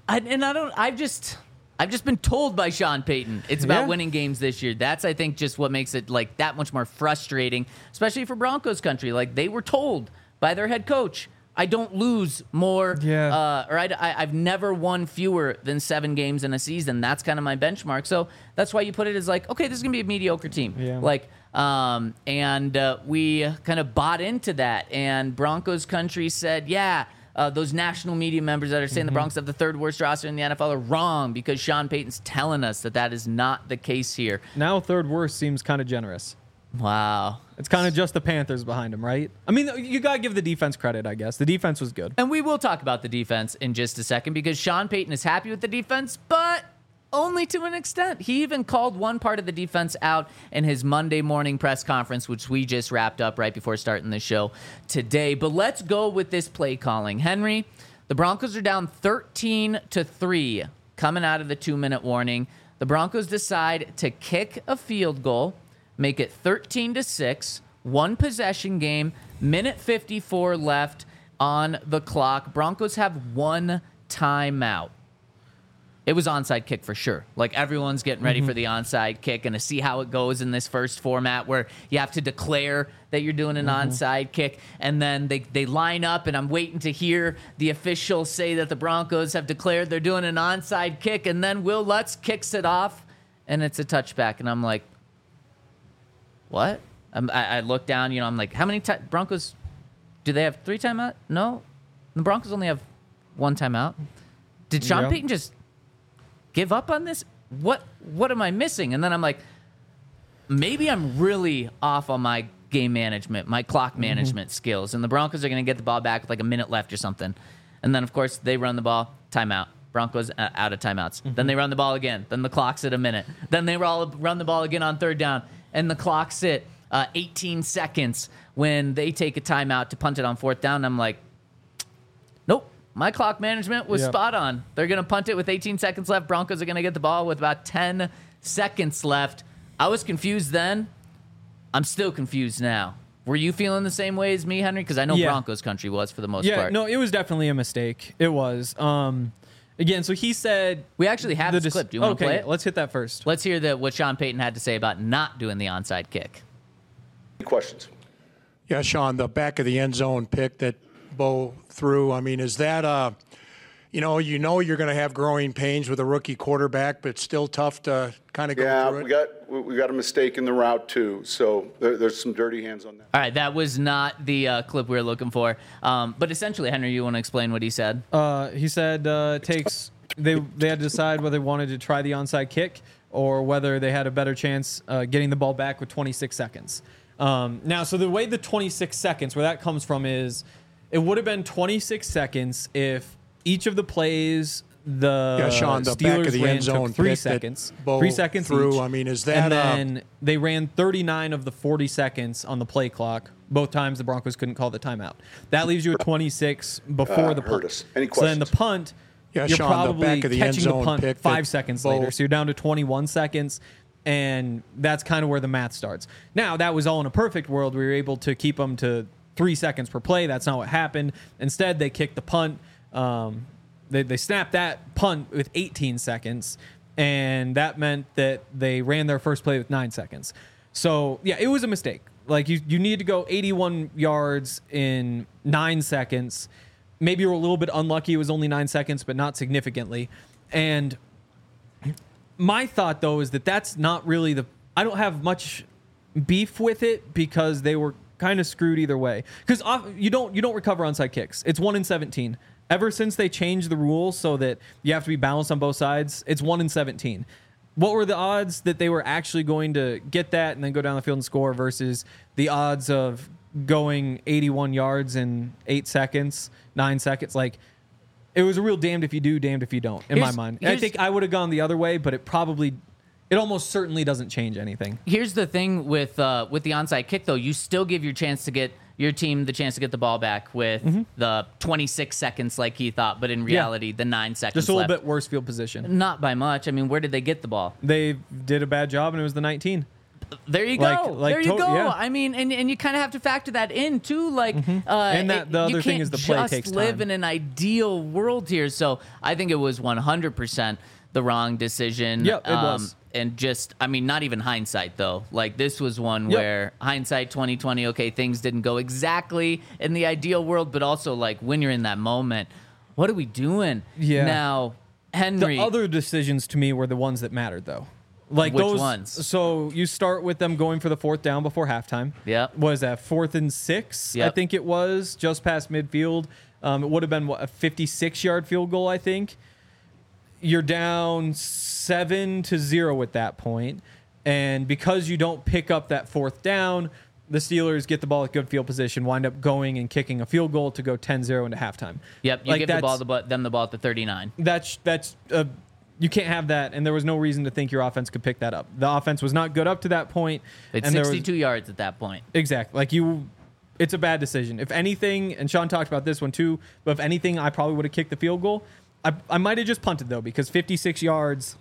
I've just been told by Sean Payton it's about winning games this year. That's, I think, just what makes it that much more frustrating, especially for Broncos country. They were told by their head coach, I don't lose more, I've never won fewer than 7 games in a season. That's kind of my benchmark. So that's why you put it as okay, this is going to be a mediocre team. Yeah. We kind of bought into that. And Broncos country said, those national media members that are saying the Broncos have the 3rd worst roster in the NFL are wrong because Sean Payton's telling us that is not the case here. Now 3rd worst seems kind of generous. Wow. It's kind of just the Panthers behind him, right? I mean, you got to give the defense credit, I guess. The defense was good. And we will talk about the defense in just a second because Sean Payton is happy with the defense, but only to an extent. He even called one part of the defense out in his Monday morning press conference, which we just wrapped up right before starting the show today. But let's go with this play calling. Henry, the Broncos are down 13-3 coming out of the 2-minute warning. The Broncos decide to kick a field goal, make it 13-6, 1 possession game, minute 54 left on the clock. Broncos have 1 timeout. it was onside kick for sure. Like everyone's getting ready for the onside kick and to see how it goes in this first format where you have to declare that you're doing an onside kick. And then they line up and I'm waiting to hear the officials say that the Broncos have declared they're doing an onside kick. And then Will Lutz kicks it off and it's a touchback. And I'm like, what? I look down, I'm like, how many Broncos, do they have 3 timeout? No. The Broncos only have 1 timeout. Did Sean Payton just give up on this? What am I missing? And then I'm like, maybe I'm really off on my game management, my clock management skills. And the Broncos are going to get the ball back with like a minute left or something. And then, of course, they run the ball, timeout. Broncos out of timeouts. Then they run the ball again. Then the clock's at a minute. Then they run the ball again on 3rd down. And the clock's at 18 seconds when they take a timeout to punt it on 4th down. And I'm like, nope. My clock management was spot on. They're going to punt it with 18 seconds left. Broncos are going to get the ball with about 10 seconds left. I was confused then. I'm still confused now. Were you feeling the same way as me, Henry? Because I know Broncos country was for the most part. No, it was definitely a mistake. It was. Again, so he said... We actually have this clip. Do you want to play it? Let's hit that first. Let's hear what Sean Payton had to say about not doing the onside kick. Questions? Yeah, Sean, the back of the end zone pick that Bo threw, I mean, is that you're going to have growing pains with a rookie quarterback, but it's still tough to kind of go through it? We got a mistake in the route too, so there's some dirty hands on that. All right, that was not the clip we were looking for. But essentially, Henry, you want to explain what he said? He said they had to decide whether they wanted to try the onside kick or whether they had a better chance getting the ball back with 26 seconds. Now, so the way the 26 seconds, where that comes from is it would have been 26 seconds if each of the plays Sean, the Steelers back of the ran end zone took 3 pick seconds. Bo 3 seconds threw, each. I mean, is that... And then they ran 39 of the 40 seconds on the play clock. Both times the Broncos couldn't call the timeout. That leaves you at 26 before the punt. Us. Any So then the questions? punt, Yeah, you're Sean, the probably back of the end catching the zone punt pick 5 that seconds Bo- later. So you're down to 21 seconds. And that's kind of where the math starts. Now, that was all in a perfect world. We were able to keep them to 3 seconds per play. That's not what happened. Instead, they kicked the punt. They snapped that punt with 18 seconds, and that meant that they ran their first play with 9 seconds. So, yeah, it was a mistake. Like, you need to go 81 yards in 9 seconds. Maybe you were a little bit unlucky. It was only 9 seconds, but not significantly. And my thought, though, is that that's not really I don't have much beef with it because they were kind of screwed either way. Because you don't recover onside kicks. It's 1 in 17. Ever since they changed the rules so that you have to be balanced on both sides, it's 1 in 17. What were the odds that they were actually going to get that and then go down the field and score versus the odds of going 81 yards in 8 seconds, 9 seconds? Like, it was a real damned if you do, damned if you don't, in my mind. I think I would have gone the other way, but it almost certainly doesn't change anything. Here's the thing with the onside kick, though. You still give your team the chance to get the ball back with the 26 seconds like he thought, but in reality, the 9 seconds Just a little left. bit worse field position. Not by much. I mean, where did they get the ball? They did a bad job, and it was the 19. There you go. There you go. Yeah. I mean, and you kind of have to factor that in too. Like, And that the other thing is the play takes You can't just live time. in an ideal world here. So I think it was 100% the wrong decision. Yep, it was. And just, I mean, not even hindsight though. Like this was one Yep. where hindsight 2020. Okay, things didn't go exactly in the ideal world, but also like when you're in that moment, what are we doing? Yeah. Now, Henry. The other decisions to me were the ones that mattered, though. Like Which those ones? So you start with them going for the 4th down before halftime. Yep. What is that, 4th and 6? Yep. I think it was just past midfield. It would have been a 56-yard field goal, I think. You're down 7-0 at that point, and because you don't pick up that 4th down, the Steelers get the ball at good field position, wind up going and kicking a field goal to go 10-0 into halftime. Yep. You give them the ball at the 39. That's you can't have that, and there was no reason to think your offense could pick that up. The offense was not good up to that point. It's and 62 yards at that point. Exactly. It's a bad decision. If anything, and Sean talked about this one too, but if anything, I probably would have kicked the field goal. I might have just punted, though, because 56 yards,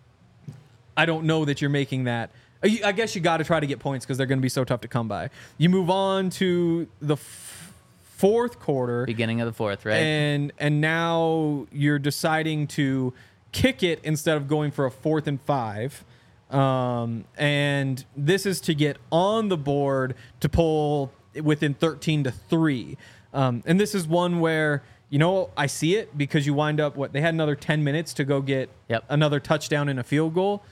I don't know that you're making that. I guess you got to try to get points because they're going to be so tough to come by. You move on to the fourth quarter. Beginning of the fourth, right? And now you're deciding to kick it instead of going for a 4th and 5. And this is to get on the board to pull within 13-3. And this is one where, I see it because you wind up they had another 10 minutes to go get another touchdown and a field goal.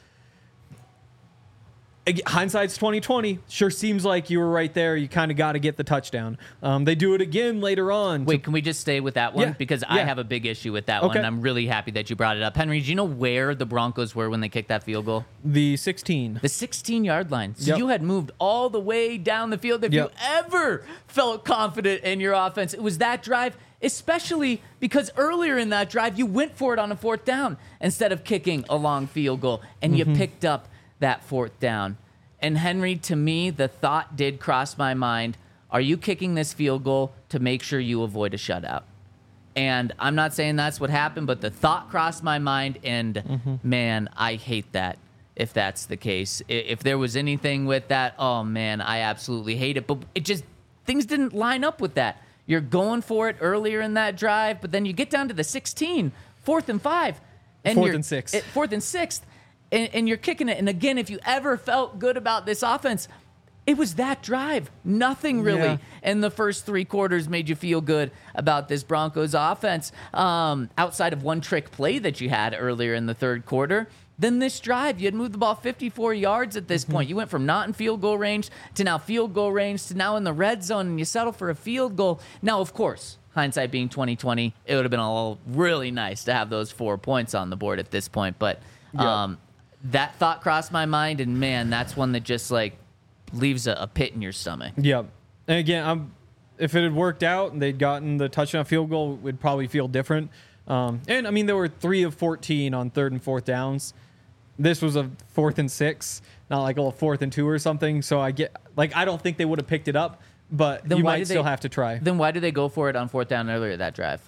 Hindsight's 2020. Sure seems like you were right there. You kind of got to get the touchdown. They do it again later on. Wait, can we just stay with that one? Yeah. Because I have a big issue with that one. And I'm really happy that you brought it up. Henry, do you know where the Broncos were when they kicked that field goal? The 16. The 16-yard line. So you had moved all the way down the field. If you ever felt confident in your offense, it was that drive, especially because earlier in that drive, you went for it on a 4th down instead of kicking a long field goal, and you picked up that 4th down. And Henry, to me, the thought did cross my mind, are you kicking this field goal to make sure you avoid a shutout? And I'm not saying that's what happened, but the thought crossed my mind, and man, I hate that if that's the case. If there was anything with that, oh man, I absolutely hate it. But things didn't line up with that. You're going for it earlier in that drive, but then you get down to the 16, 4th and 5. And 4th and 6. 4th and 6th. And you're kicking it. And again, if you ever felt good about this offense, it was that drive. Nothing really in the first 3 quarters made you feel good about this Broncos offense outside of one trick play that you had earlier in the 3rd quarter. Then this drive, you had moved the ball 54 yards at this point. You went from not in field goal range to now field goal range to now in the red zone, and you settle for a field goal. Now, of course, hindsight being 2020, it would have been all really nice to have those 4 points on the board at this point. But that thought crossed my mind, and man, that's one that just leaves a pit in your stomach. Yep. And again, if it had worked out and they'd gotten the touchdown field goal, it would probably feel different. And I mean, there were 3 of 14 on 3rd and 4th downs. This was a 4th and 6, not like a 4th and 2 or something. So I don't think they would have picked it up, but then you might still have to try. Then why did they go for it on 4th down earlier that drive?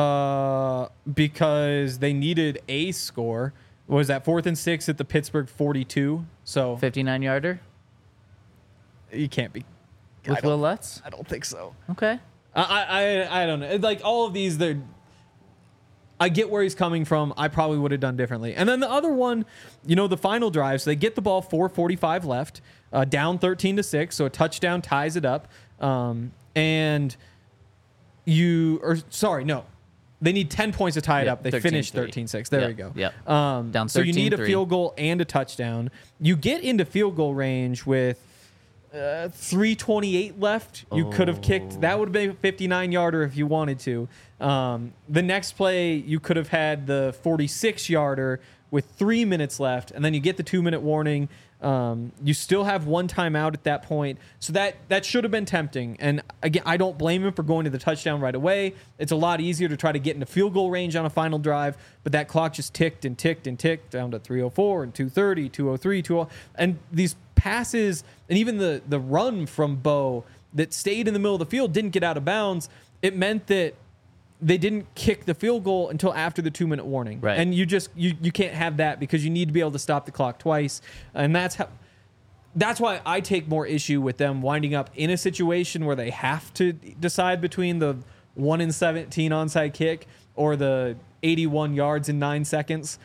Because they needed a score. Was that 4th and 6 at the Pittsburgh 42? So 59-yarder? You can't be. With Will Lutz? I don't think so. Okay. I don't know. Like all of these, I get where he's coming from. I probably would have done differently. And then the other one, the final drive, so they get the ball 4:45 left, down 13-6, so a touchdown ties it up. They need 10 points to tie it up. They finished 13-6. There we go. Yep. Down 13-3. So you need a field goal and a touchdown. You get into field goal range with 3:28 left. You could have kicked. That would have been a 59-yarder if you wanted to. The next play, you could have had the 46-yarder with 3 minutes left, and then you get the 2-minute warning. You still have one timeout at that point. So that should have been tempting. And again, I don't blame him for going to the touchdown right away. It's a lot easier to try to get into field goal range on a final drive, but that clock just ticked and ticked and ticked down to 3:04 and 2:30, 2:03, 2:00. And these passes and even the run from Bo that stayed in the middle of the field didn't get out of bounds. It meant that they didn't kick the field goal until after the 2-minute warning. Right. And you can't have that because you need to be able to stop the clock twice. And that's why I take more issue with them winding up in a situation where they have to decide between the 1 in 17 onside kick or the 81 yards in 9 seconds.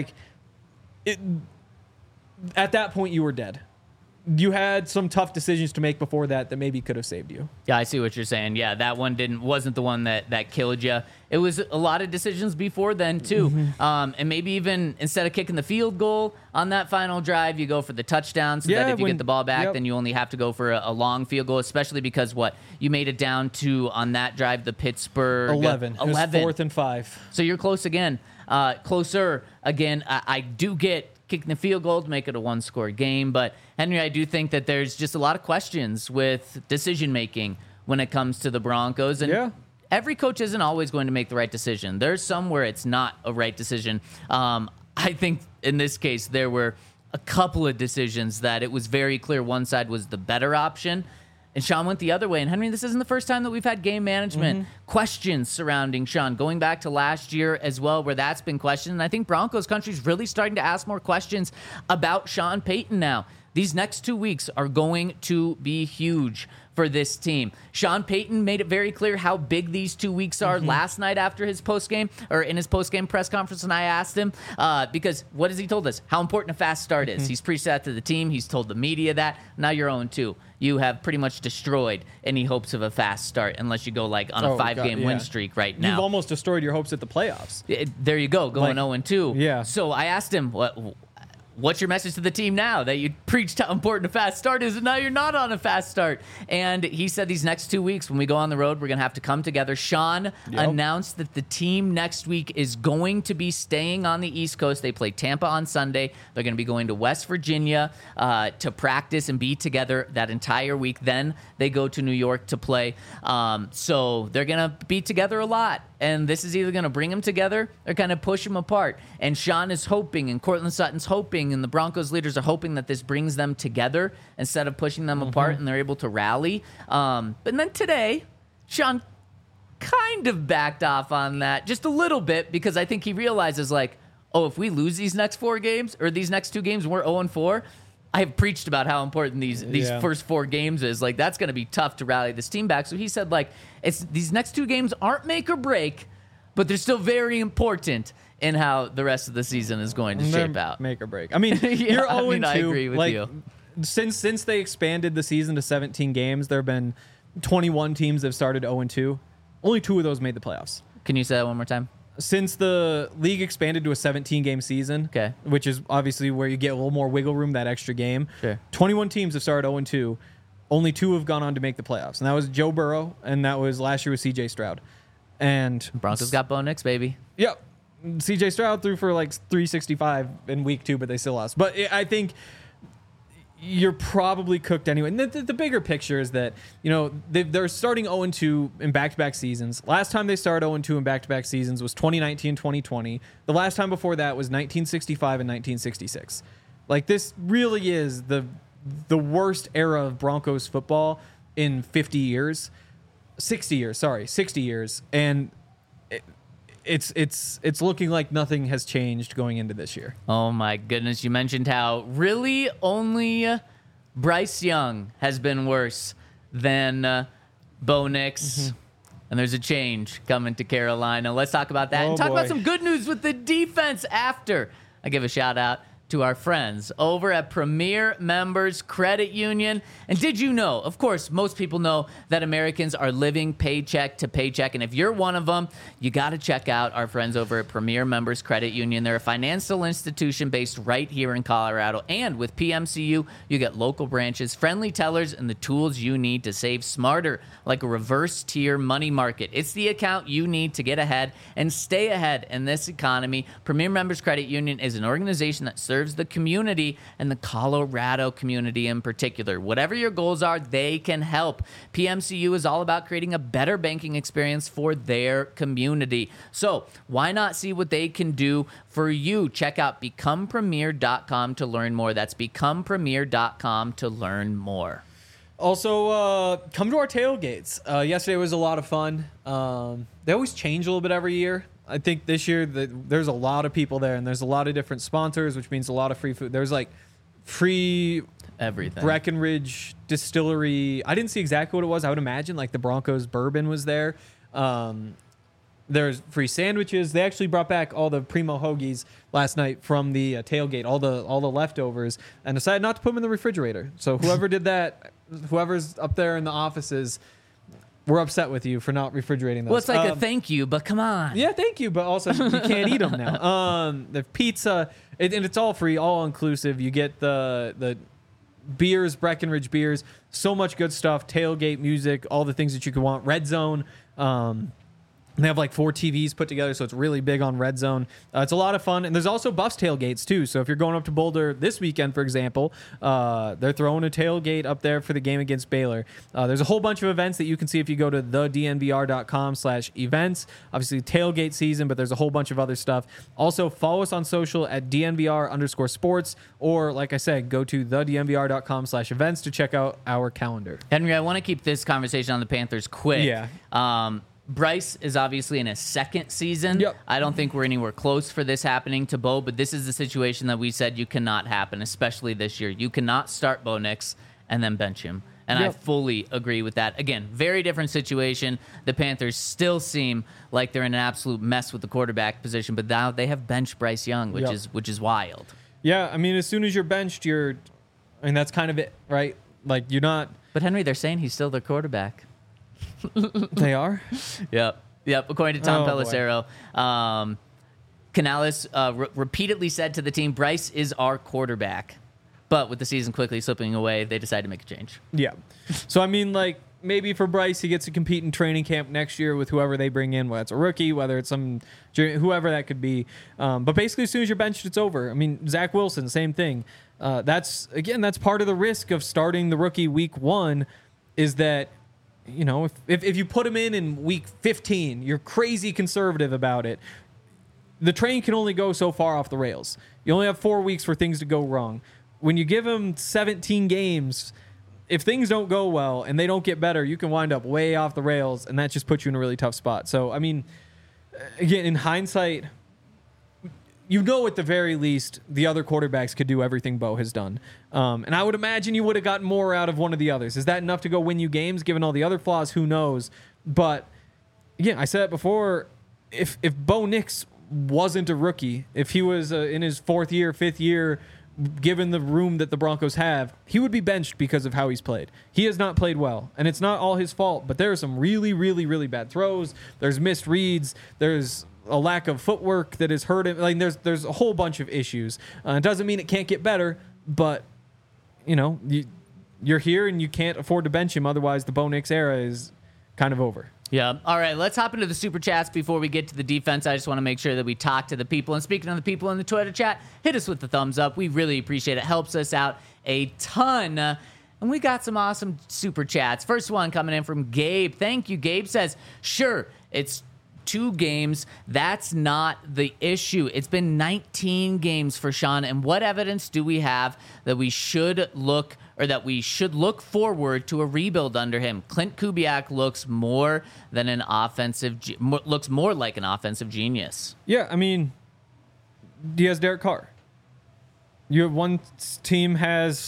At that point, you were dead. You had some tough decisions to make before that maybe could have saved you. Yeah, I see what you're saying. Yeah, that one wasn't the one that killed you. It was a lot of decisions before then too. And maybe even instead of kicking the field goal on that final drive, you go for the touchdown so that if you get the ball back, then you only have to go for a long field goal, especially because you made it down to on that drive the Pittsburgh 11. 11. It was 4th and 5. So you're close again. Closer again. I do get kicking the field goal to make it a 1-score game. But, Henry, I do think that there's just a lot of questions with decision-making when it comes to the Broncos. And every coach isn't always going to make the right decision. There's some where it's not a right decision. I think in this case there were a couple of decisions that it was very clear one side was the better option. And Sean went the other way. And Henry, this isn't the first time that we've had game management questions surrounding Sean, going back to last year as well, where that's been questioned. And I think Broncos country is really starting to ask more questions about Sean Payton now. These next 2 weeks are going to be huge for this team. Sean Payton made it very clear how big these 2 weeks are last night after his postgame, or in his postgame press conference, and I asked him, because what has he told us? How important a fast start is. He's preached that to the team. He's told the media that. Now you're 0-2. You have pretty much destroyed any hopes of a fast start unless you go like on a 5-game win streak right now. You've almost destroyed your hopes at the playoffs. There you go, going 0-2. Yeah. So I asked him, what's your message to the team now that you preached how important a fast start is and now you're not on a fast start? And he said these next 2 weeks when we go on the road, we're going to have to come together. Sean announced that the team next week is going to be staying on the East Coast. They play Tampa on Sunday. They're going to be going to West Virginia to practice and be together that entire week. Then they go to New York to play. So they're going to be together a lot. And this is either going to bring them together or kind of push them apart. And Sean is hoping, and Cortland Sutton's hoping, and the Broncos leaders are hoping that this brings them together instead of pushing them apart, and they're able to rally. But then today, Sean kind of backed off on that just a little bit because I think he realizes, like, oh, if we lose these next 4 games or these next 2 games and we're 0-4, I have preached about how important these first 4 games is. Like, that's going to be tough to rally this team back. So he said, like, these next 2 games aren't make or break, but they're still very important in how the rest of the season is going to shape out. Make or break. I mean, you're 0-2. I agree with you. Since they expanded the season to 17 games, there have been 21 teams that have started 0-2. Only 2 of those made the playoffs. Can you say that one more time? Since the league expanded to a 17-game season, which is obviously where you get a little more wiggle room, that extra game, 21 teams have started 0-2. Only 2 have gone on to make the playoffs. And that was Joe Burrow, and that was last year with C.J. Stroud. And Broncos got Bo Nix, baby. Yep. C.J. Stroud threw for like 365 in week 2, but they still lost. But I think you're probably cooked anyway. And the bigger picture is that, you know, they're starting 0-2 in back-to-back seasons. Last time they started 0-2 in back-to-back seasons was 2019-2020. The last time before that was 1965 and 1966. Like, this really is the worst era of Broncos football in 50 years. 60 years, sorry. 60 years. And it's looking like nothing has changed going into this year. Oh my goodness. You mentioned how really only Bryce Young has been worse than Bo Nix. And there's a change coming to Carolina. Let's talk about that and talk about some good news with the defense after I give a shout out to our friends over at Premier Members Credit Union. And did you know, of course, most people know that Americans are living paycheck to paycheck. And if you're one of them, you got to check out our friends over at Premier Members Credit Union. They're a financial institution based right here in Colorado. And with PMCU, you get local branches, friendly tellers, and the tools you need to save smarter, like a reverse tier money market. It's the account you need to get ahead and stay ahead in this economy. Premier Members Credit Union is an organization that serves the community and the Colorado community in particular. Whatever your goals are, they can help. PMCU is all about creating a better banking experience for their community. So why not see what they can do for you? Check out becomepremier.com to learn more. That's becomepremier.com to learn more. Also, come to our tailgates. Yesterday was a lot of fun. They always change a little bit every year. I think this year there's a lot of people there, and there's a lot of different sponsors, which means a lot of free food. There's like free everything. Breckenridge Distillery. I didn't see exactly what it was. I would imagine like the Broncos bourbon was there. There's free sandwiches. They actually brought back all the Primo Hoagies last night from the tailgate, all the leftovers, and decided not to put them in the refrigerator. So whoever did that, whoever's up there in the offices, we're upset with you for not refrigerating those. Well, it's like a thank you, but come on. Yeah, thank you, but also you can't eat them now. The pizza, and it's all free, all inclusive. You get the beers, Breckenridge beers, so much good stuff, tailgate music, all the things that you could want. Red Zone. They have like 4 TVs put together, so it's really big on Red Zone. It's a lot of fun. And there's also Buffs tailgates, too. So if you're going up to Boulder this weekend, for example, they're throwing a tailgate up there for the game against Baylor. There's a whole bunch of events that you can see if you go to thednvr.com/events. Obviously, tailgate season, but there's a whole bunch of other stuff. Also, follow us on social at DNVR_sports. Or, like I said, go to thednvr.com/events to check out our calendar. Henry, I want to keep this conversation on the Panthers quick. Yeah. Bryce is obviously in his second season. Yep. I don't think we're anywhere close for this happening to Bo, but this is the situation that we said you cannot happen, especially this year. You cannot start Bo Nix and then bench him. And I Yep. fully agree with that. Again, very different situation. The Panthers still seem like they're in an absolute mess with the quarterback position, but now they have benched Bryce Young, which Yep. is wild. Yeah, I mean, as soon as you're benched, that's kind of it, right? Like, you're not. But Henry, they're saying he's still their quarterback. They are? Yep. According to Tom Oh, boy. Pelissero, Canales repeatedly said to the team, Bryce is our quarterback. But with the season quickly slipping away, they decided to make a change. Yeah. So, I mean, like, maybe for Bryce, he gets to compete in training camp next year with whoever they bring in, whether it's a rookie, whether it's whoever that could be. But basically, as soon as you're benched, it's over. I mean, Zach Wilson, same thing. That's part of the risk of starting the rookie week 1 is that, you know, if you put him in week 15, you're crazy conservative about it. The train can only go so far off the rails. You only have 4 weeks for things to go wrong. When you give him 17 games, if things don't go well and they don't get better, you can wind up way off the rails, and that just puts you in a really tough spot. So, I mean, again, in hindsight, you know at the very least the other quarterbacks could do everything Bo has done. And I would imagine you would have gotten more out of one of the others. Is that enough to go win you games, given all the other flaws? Who knows? But, again, I said it before, if Bo Nix wasn't a rookie, if he was in his 4th year, 5th year, given the room that the Broncos have, he would be benched because of how he's played. He has not played well, and it's not all his fault, but there are some really, really, really bad throws. There's missed reads. There's a lack of footwork that has hurt him. Like, there's a whole bunch of issues. It doesn't mean it can't get better, but, you know, you're here and you can't afford to bench him. Otherwise, the Bo Nix era is kind of over. Yeah. All right, let's hop into the super chats before we get to the defense. I just want to make sure that we talk to the people. And speaking of the people in the Twitter chat, hit us with the thumbs up. We really appreciate it. Helps us out a ton. And we got some awesome super chats. First one coming in from Gabe. Thank you. Gabe says, sure, it's 2 games. That's not the issue. It's been 19 games for Sean. And what evidence do we have that we should look forward to a rebuild under him? Clint Kubiak looks more like an offensive genius. Yeah, I mean, he has Derek Carr. One team has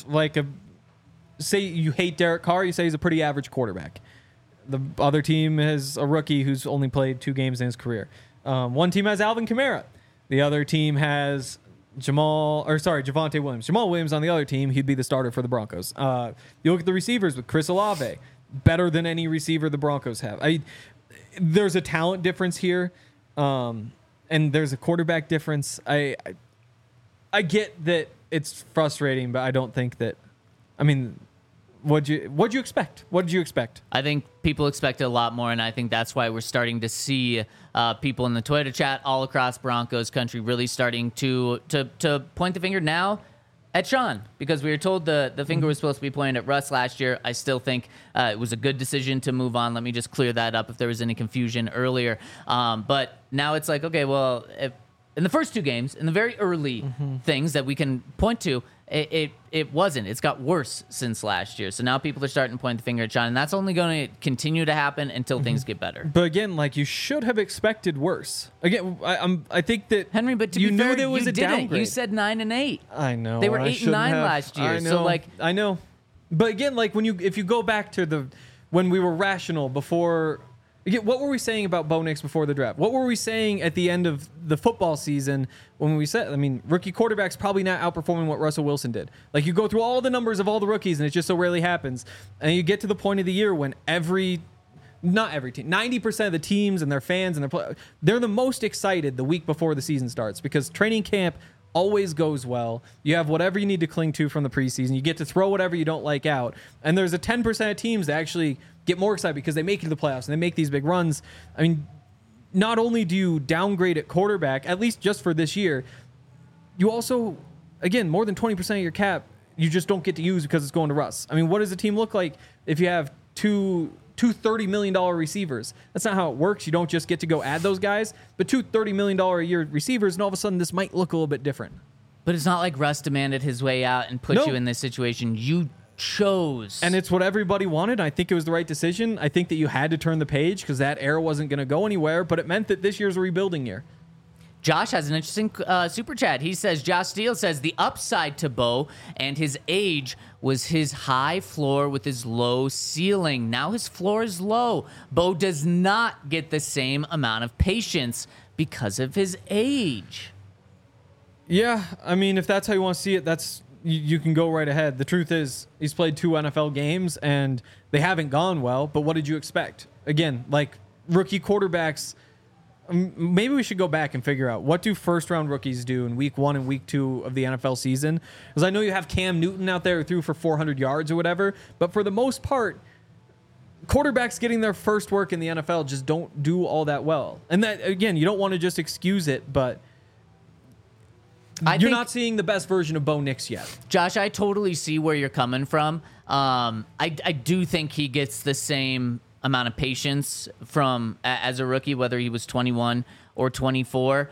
say you hate Derek Carr, you say he's a pretty average quarterback. The other team has a rookie who's only played 2 games in his career. One team has Alvin Kamara. The other team has Javonte Williams. Jamal Williams on the other team, he'd be the starter for the Broncos. You look at the receivers with Chris Olave, better than any receiver the Broncos have. There's a talent difference here, and there's a quarterback difference. I get that it's frustrating, but I don't think that. I mean, what'd you expect? What did you expect? I think people expected a lot more, and I think that's why we're starting to see people in the Twitter chat all across Broncos country really starting to point the finger now at Sean, because we were told the finger was supposed to be pointed at Russ last year. I still think it was a good decision to move on. Let me just clear that up if there was any confusion earlier. But now it's like, okay, well, if in the first 2 games, in the very early things that we can point to, it wasn't. It's got worse since last year. So now people are starting to point the finger at Sean, and that's only going to continue to happen until things get better. But again, you should have expected worse. Again, I think that Henry, but you be knew fair, there was you a didn't. downgrade. You said 9-8. I know They were I 8-9 shouldn't have. last year. I know. So I know. But again, if you go back to when we were rational before. Again, what were we saying about Bo Nix before the draft? What were we saying at the end of the football season when we said, rookie quarterback's probably not outperforming what Russell Wilson did. You go through all the numbers of all the rookies, and it just so rarely happens. And you get to the point of the year when not every team, 90% of the teams and their fans and they're the most excited the week before the season starts, because training camp always goes well. You have whatever you need to cling to from the preseason. You get to throw whatever you don't like out. And there's a 10% of teams that actually get more excited because they make it to the playoffs and they make these big runs. Not only do you downgrade at quarterback, at least just for this year, you also, again, more than 20% of your cap, you just don't get to use because it's going to Russ. What does a team look like if you have two $30 million receivers? That's not how it works. You don't just get to go add those guys, but 2 $30 million a year receivers, and all of a sudden this might look a little bit different. But it's not like Russ demanded his way out and put you in this situation. You chose. And it's what everybody wanted. I think it was the right decision. I think that you had to turn the page because that era wasn't going to go anywhere, but it meant that this year's a rebuilding year. Josh has an interesting super chat. He says, Josh Steele says, the upside to Bo and his age was his high floor with his low ceiling. Now his floor is low. Bo does not get the same amount of patience because of his age. Yeah, I mean, if that's how you want to see it, you can go right ahead. The truth is, he's played 2 NFL games, and they haven't gone well, but what did you expect? Again, like rookie quarterbacks, maybe we should go back and figure out what do first-round rookies do in week 1 and week 2 of the NFL season? Because I know you have Cam Newton out there who threw for 400 yards or whatever, but for the most part, quarterbacks getting their first work in the NFL just don't do all that well. And that, again, you don't want to just excuse it, but you're not seeing the best version of Bo Nix yet. Josh, I totally see where you're coming from. I do think he gets the same amount of patience from as a rookie, whether he was 21 or 24.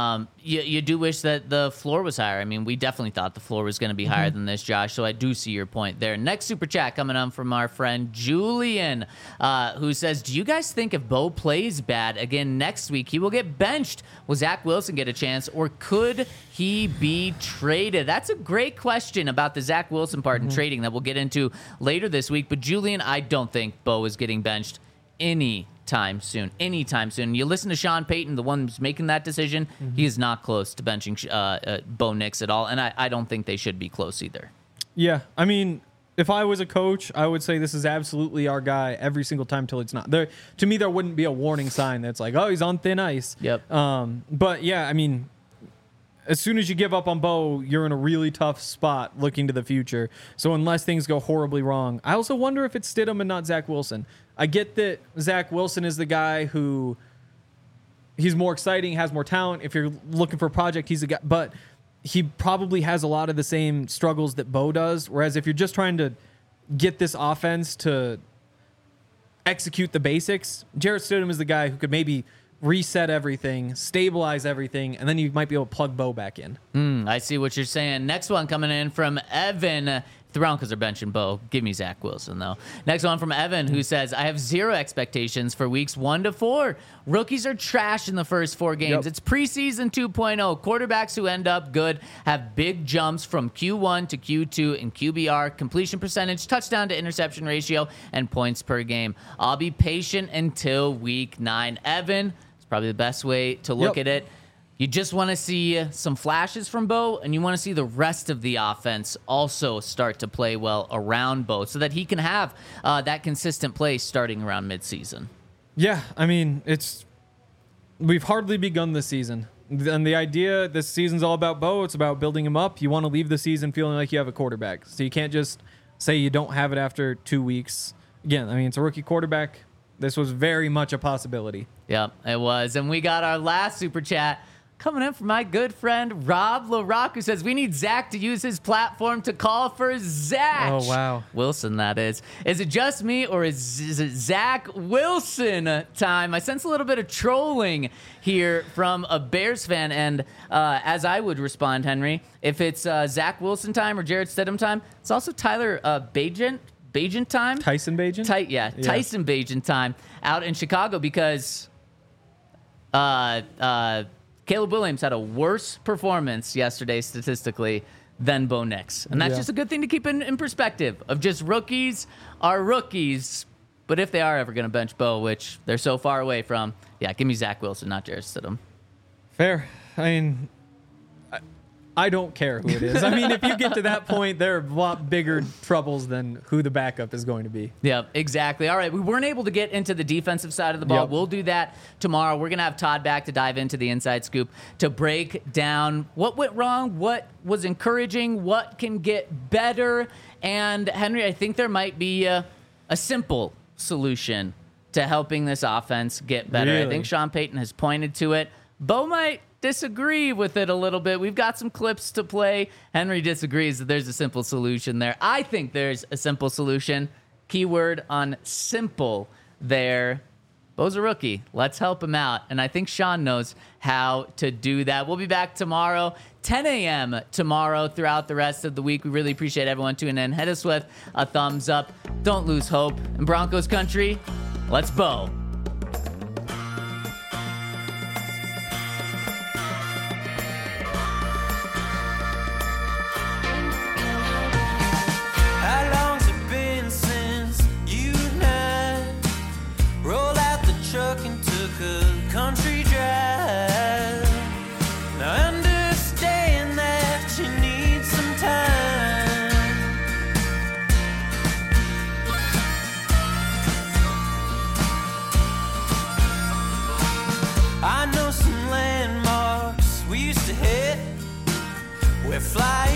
You do wish that the floor was higher. I mean, we definitely thought the floor was going to be higher than this, Josh, so I do see your point there. Next super chat coming on from our friend Julian, who says, do you guys think if Bo plays bad again next week, he will get benched? Will Zach Wilson get a chance, or could he be traded? That's a great question about the Zach Wilson part and trading that we'll get into later this week. But Julian, I don't think Bo is getting benched anytime soon. You listen to Sean Payton, the one who's making that decision. He is not close to benching Bo Nix at all, and I don't think they should be close either. Yeah, I mean, if I was a coach, I would say this is absolutely our guy every single time till it's not. There, to me, there wouldn't be a warning sign that's like, oh, he's on thin ice. Yep. But yeah, I mean, as soon as you give up on Bo, you're in a really tough spot looking to the future. So unless things go horribly wrong, I also wonder if it's Stidham and not Zach Wilson. I get that Zach Wilson is the guy who he's more exciting, has more talent. If you're looking for a project, he's a guy, but he probably has a lot of the same struggles that Bo does. Whereas if you're just trying to get this offense to execute the basics, Jarrett Stidham is the guy who could maybe reset everything, stabilize everything, and then you might be able to plug Bo back in. I see what you're saying. Next one coming in from Evan. The Broncos are benching Bo. Give me Zach Wilson, though. Next one from Evan, who says, I have zero expectations for weeks 1 to 4. Rookies are trash in the first 4 games. Yep. It's preseason 2.0. Quarterbacks who end up good have big jumps from Q1 to Q2 in QBR, completion percentage, touchdown to interception ratio, and points per game. I'll be patient until week 9. Evan, it's probably the best way to look at it. You just want to see some flashes from Bo, and you want to see the rest of the offense also start to play well around Bo so that he can have that consistent play starting around midseason. Yeah, I mean, we've hardly begun the season. And the idea this season's all about Bo. It's about building him up. You want to leave the season feeling like you have a quarterback. So you can't just say you don't have it after 2 weeks. Again, I mean, it's a rookie quarterback. This was very much a possibility. Yep, it was. And we got our last super chat coming in from my good friend Rob LaRock, who says, we need Zach to use his platform to call for Zach. Oh, wow. Wilson, that is. Is it just me, or is it Zach Wilson time? I sense a little bit of trolling here from a Bears fan. And as I would respond, Henry, if it's Zach Wilson time or Jarrett Stidham time, it's also Tyler Bagent time. Tyson Bagent? Tyson Bagent time out in Chicago, because Caleb Williams had a worse performance yesterday statistically than Bo Nix. And that's just a good thing to keep in perspective of just rookies are rookies. But if they are ever going to bench Bo, which they're so far away from, give me Zach Wilson, not Jarrett Stidham. Fair. I mean, I don't care who it is. I mean, if you get to that point, there are a lot bigger troubles than who the backup is going to be. Yeah, exactly. All right, we weren't able to get into the defensive side of the ball. Yep. We'll do that tomorrow. We're going to have Todd back to dive into the inside scoop to break down what went wrong, what was encouraging, what can get better. And, Henry, I think there might be a simple solution to helping this offense get better. Really? I think Sean Payton has pointed to it. Bo might disagree with it a little bit. We've got some clips to play. Henry disagrees that there's a simple solution there. I think there's a simple solution. Keyword on simple there. Bo's a rookie. Let's help him out. And I think Sean knows how to do that. We'll be back tomorrow, 10 a.m. tomorrow throughout the rest of the week. We really appreciate everyone tuning in. Hit us with a thumbs up. Don't lose hope. In Broncos country, let's Bo. How long's it been since you and I rolled out the truck and took a country drive? Now I understand that you need some time. I know some landmarks we used to hit. We're flying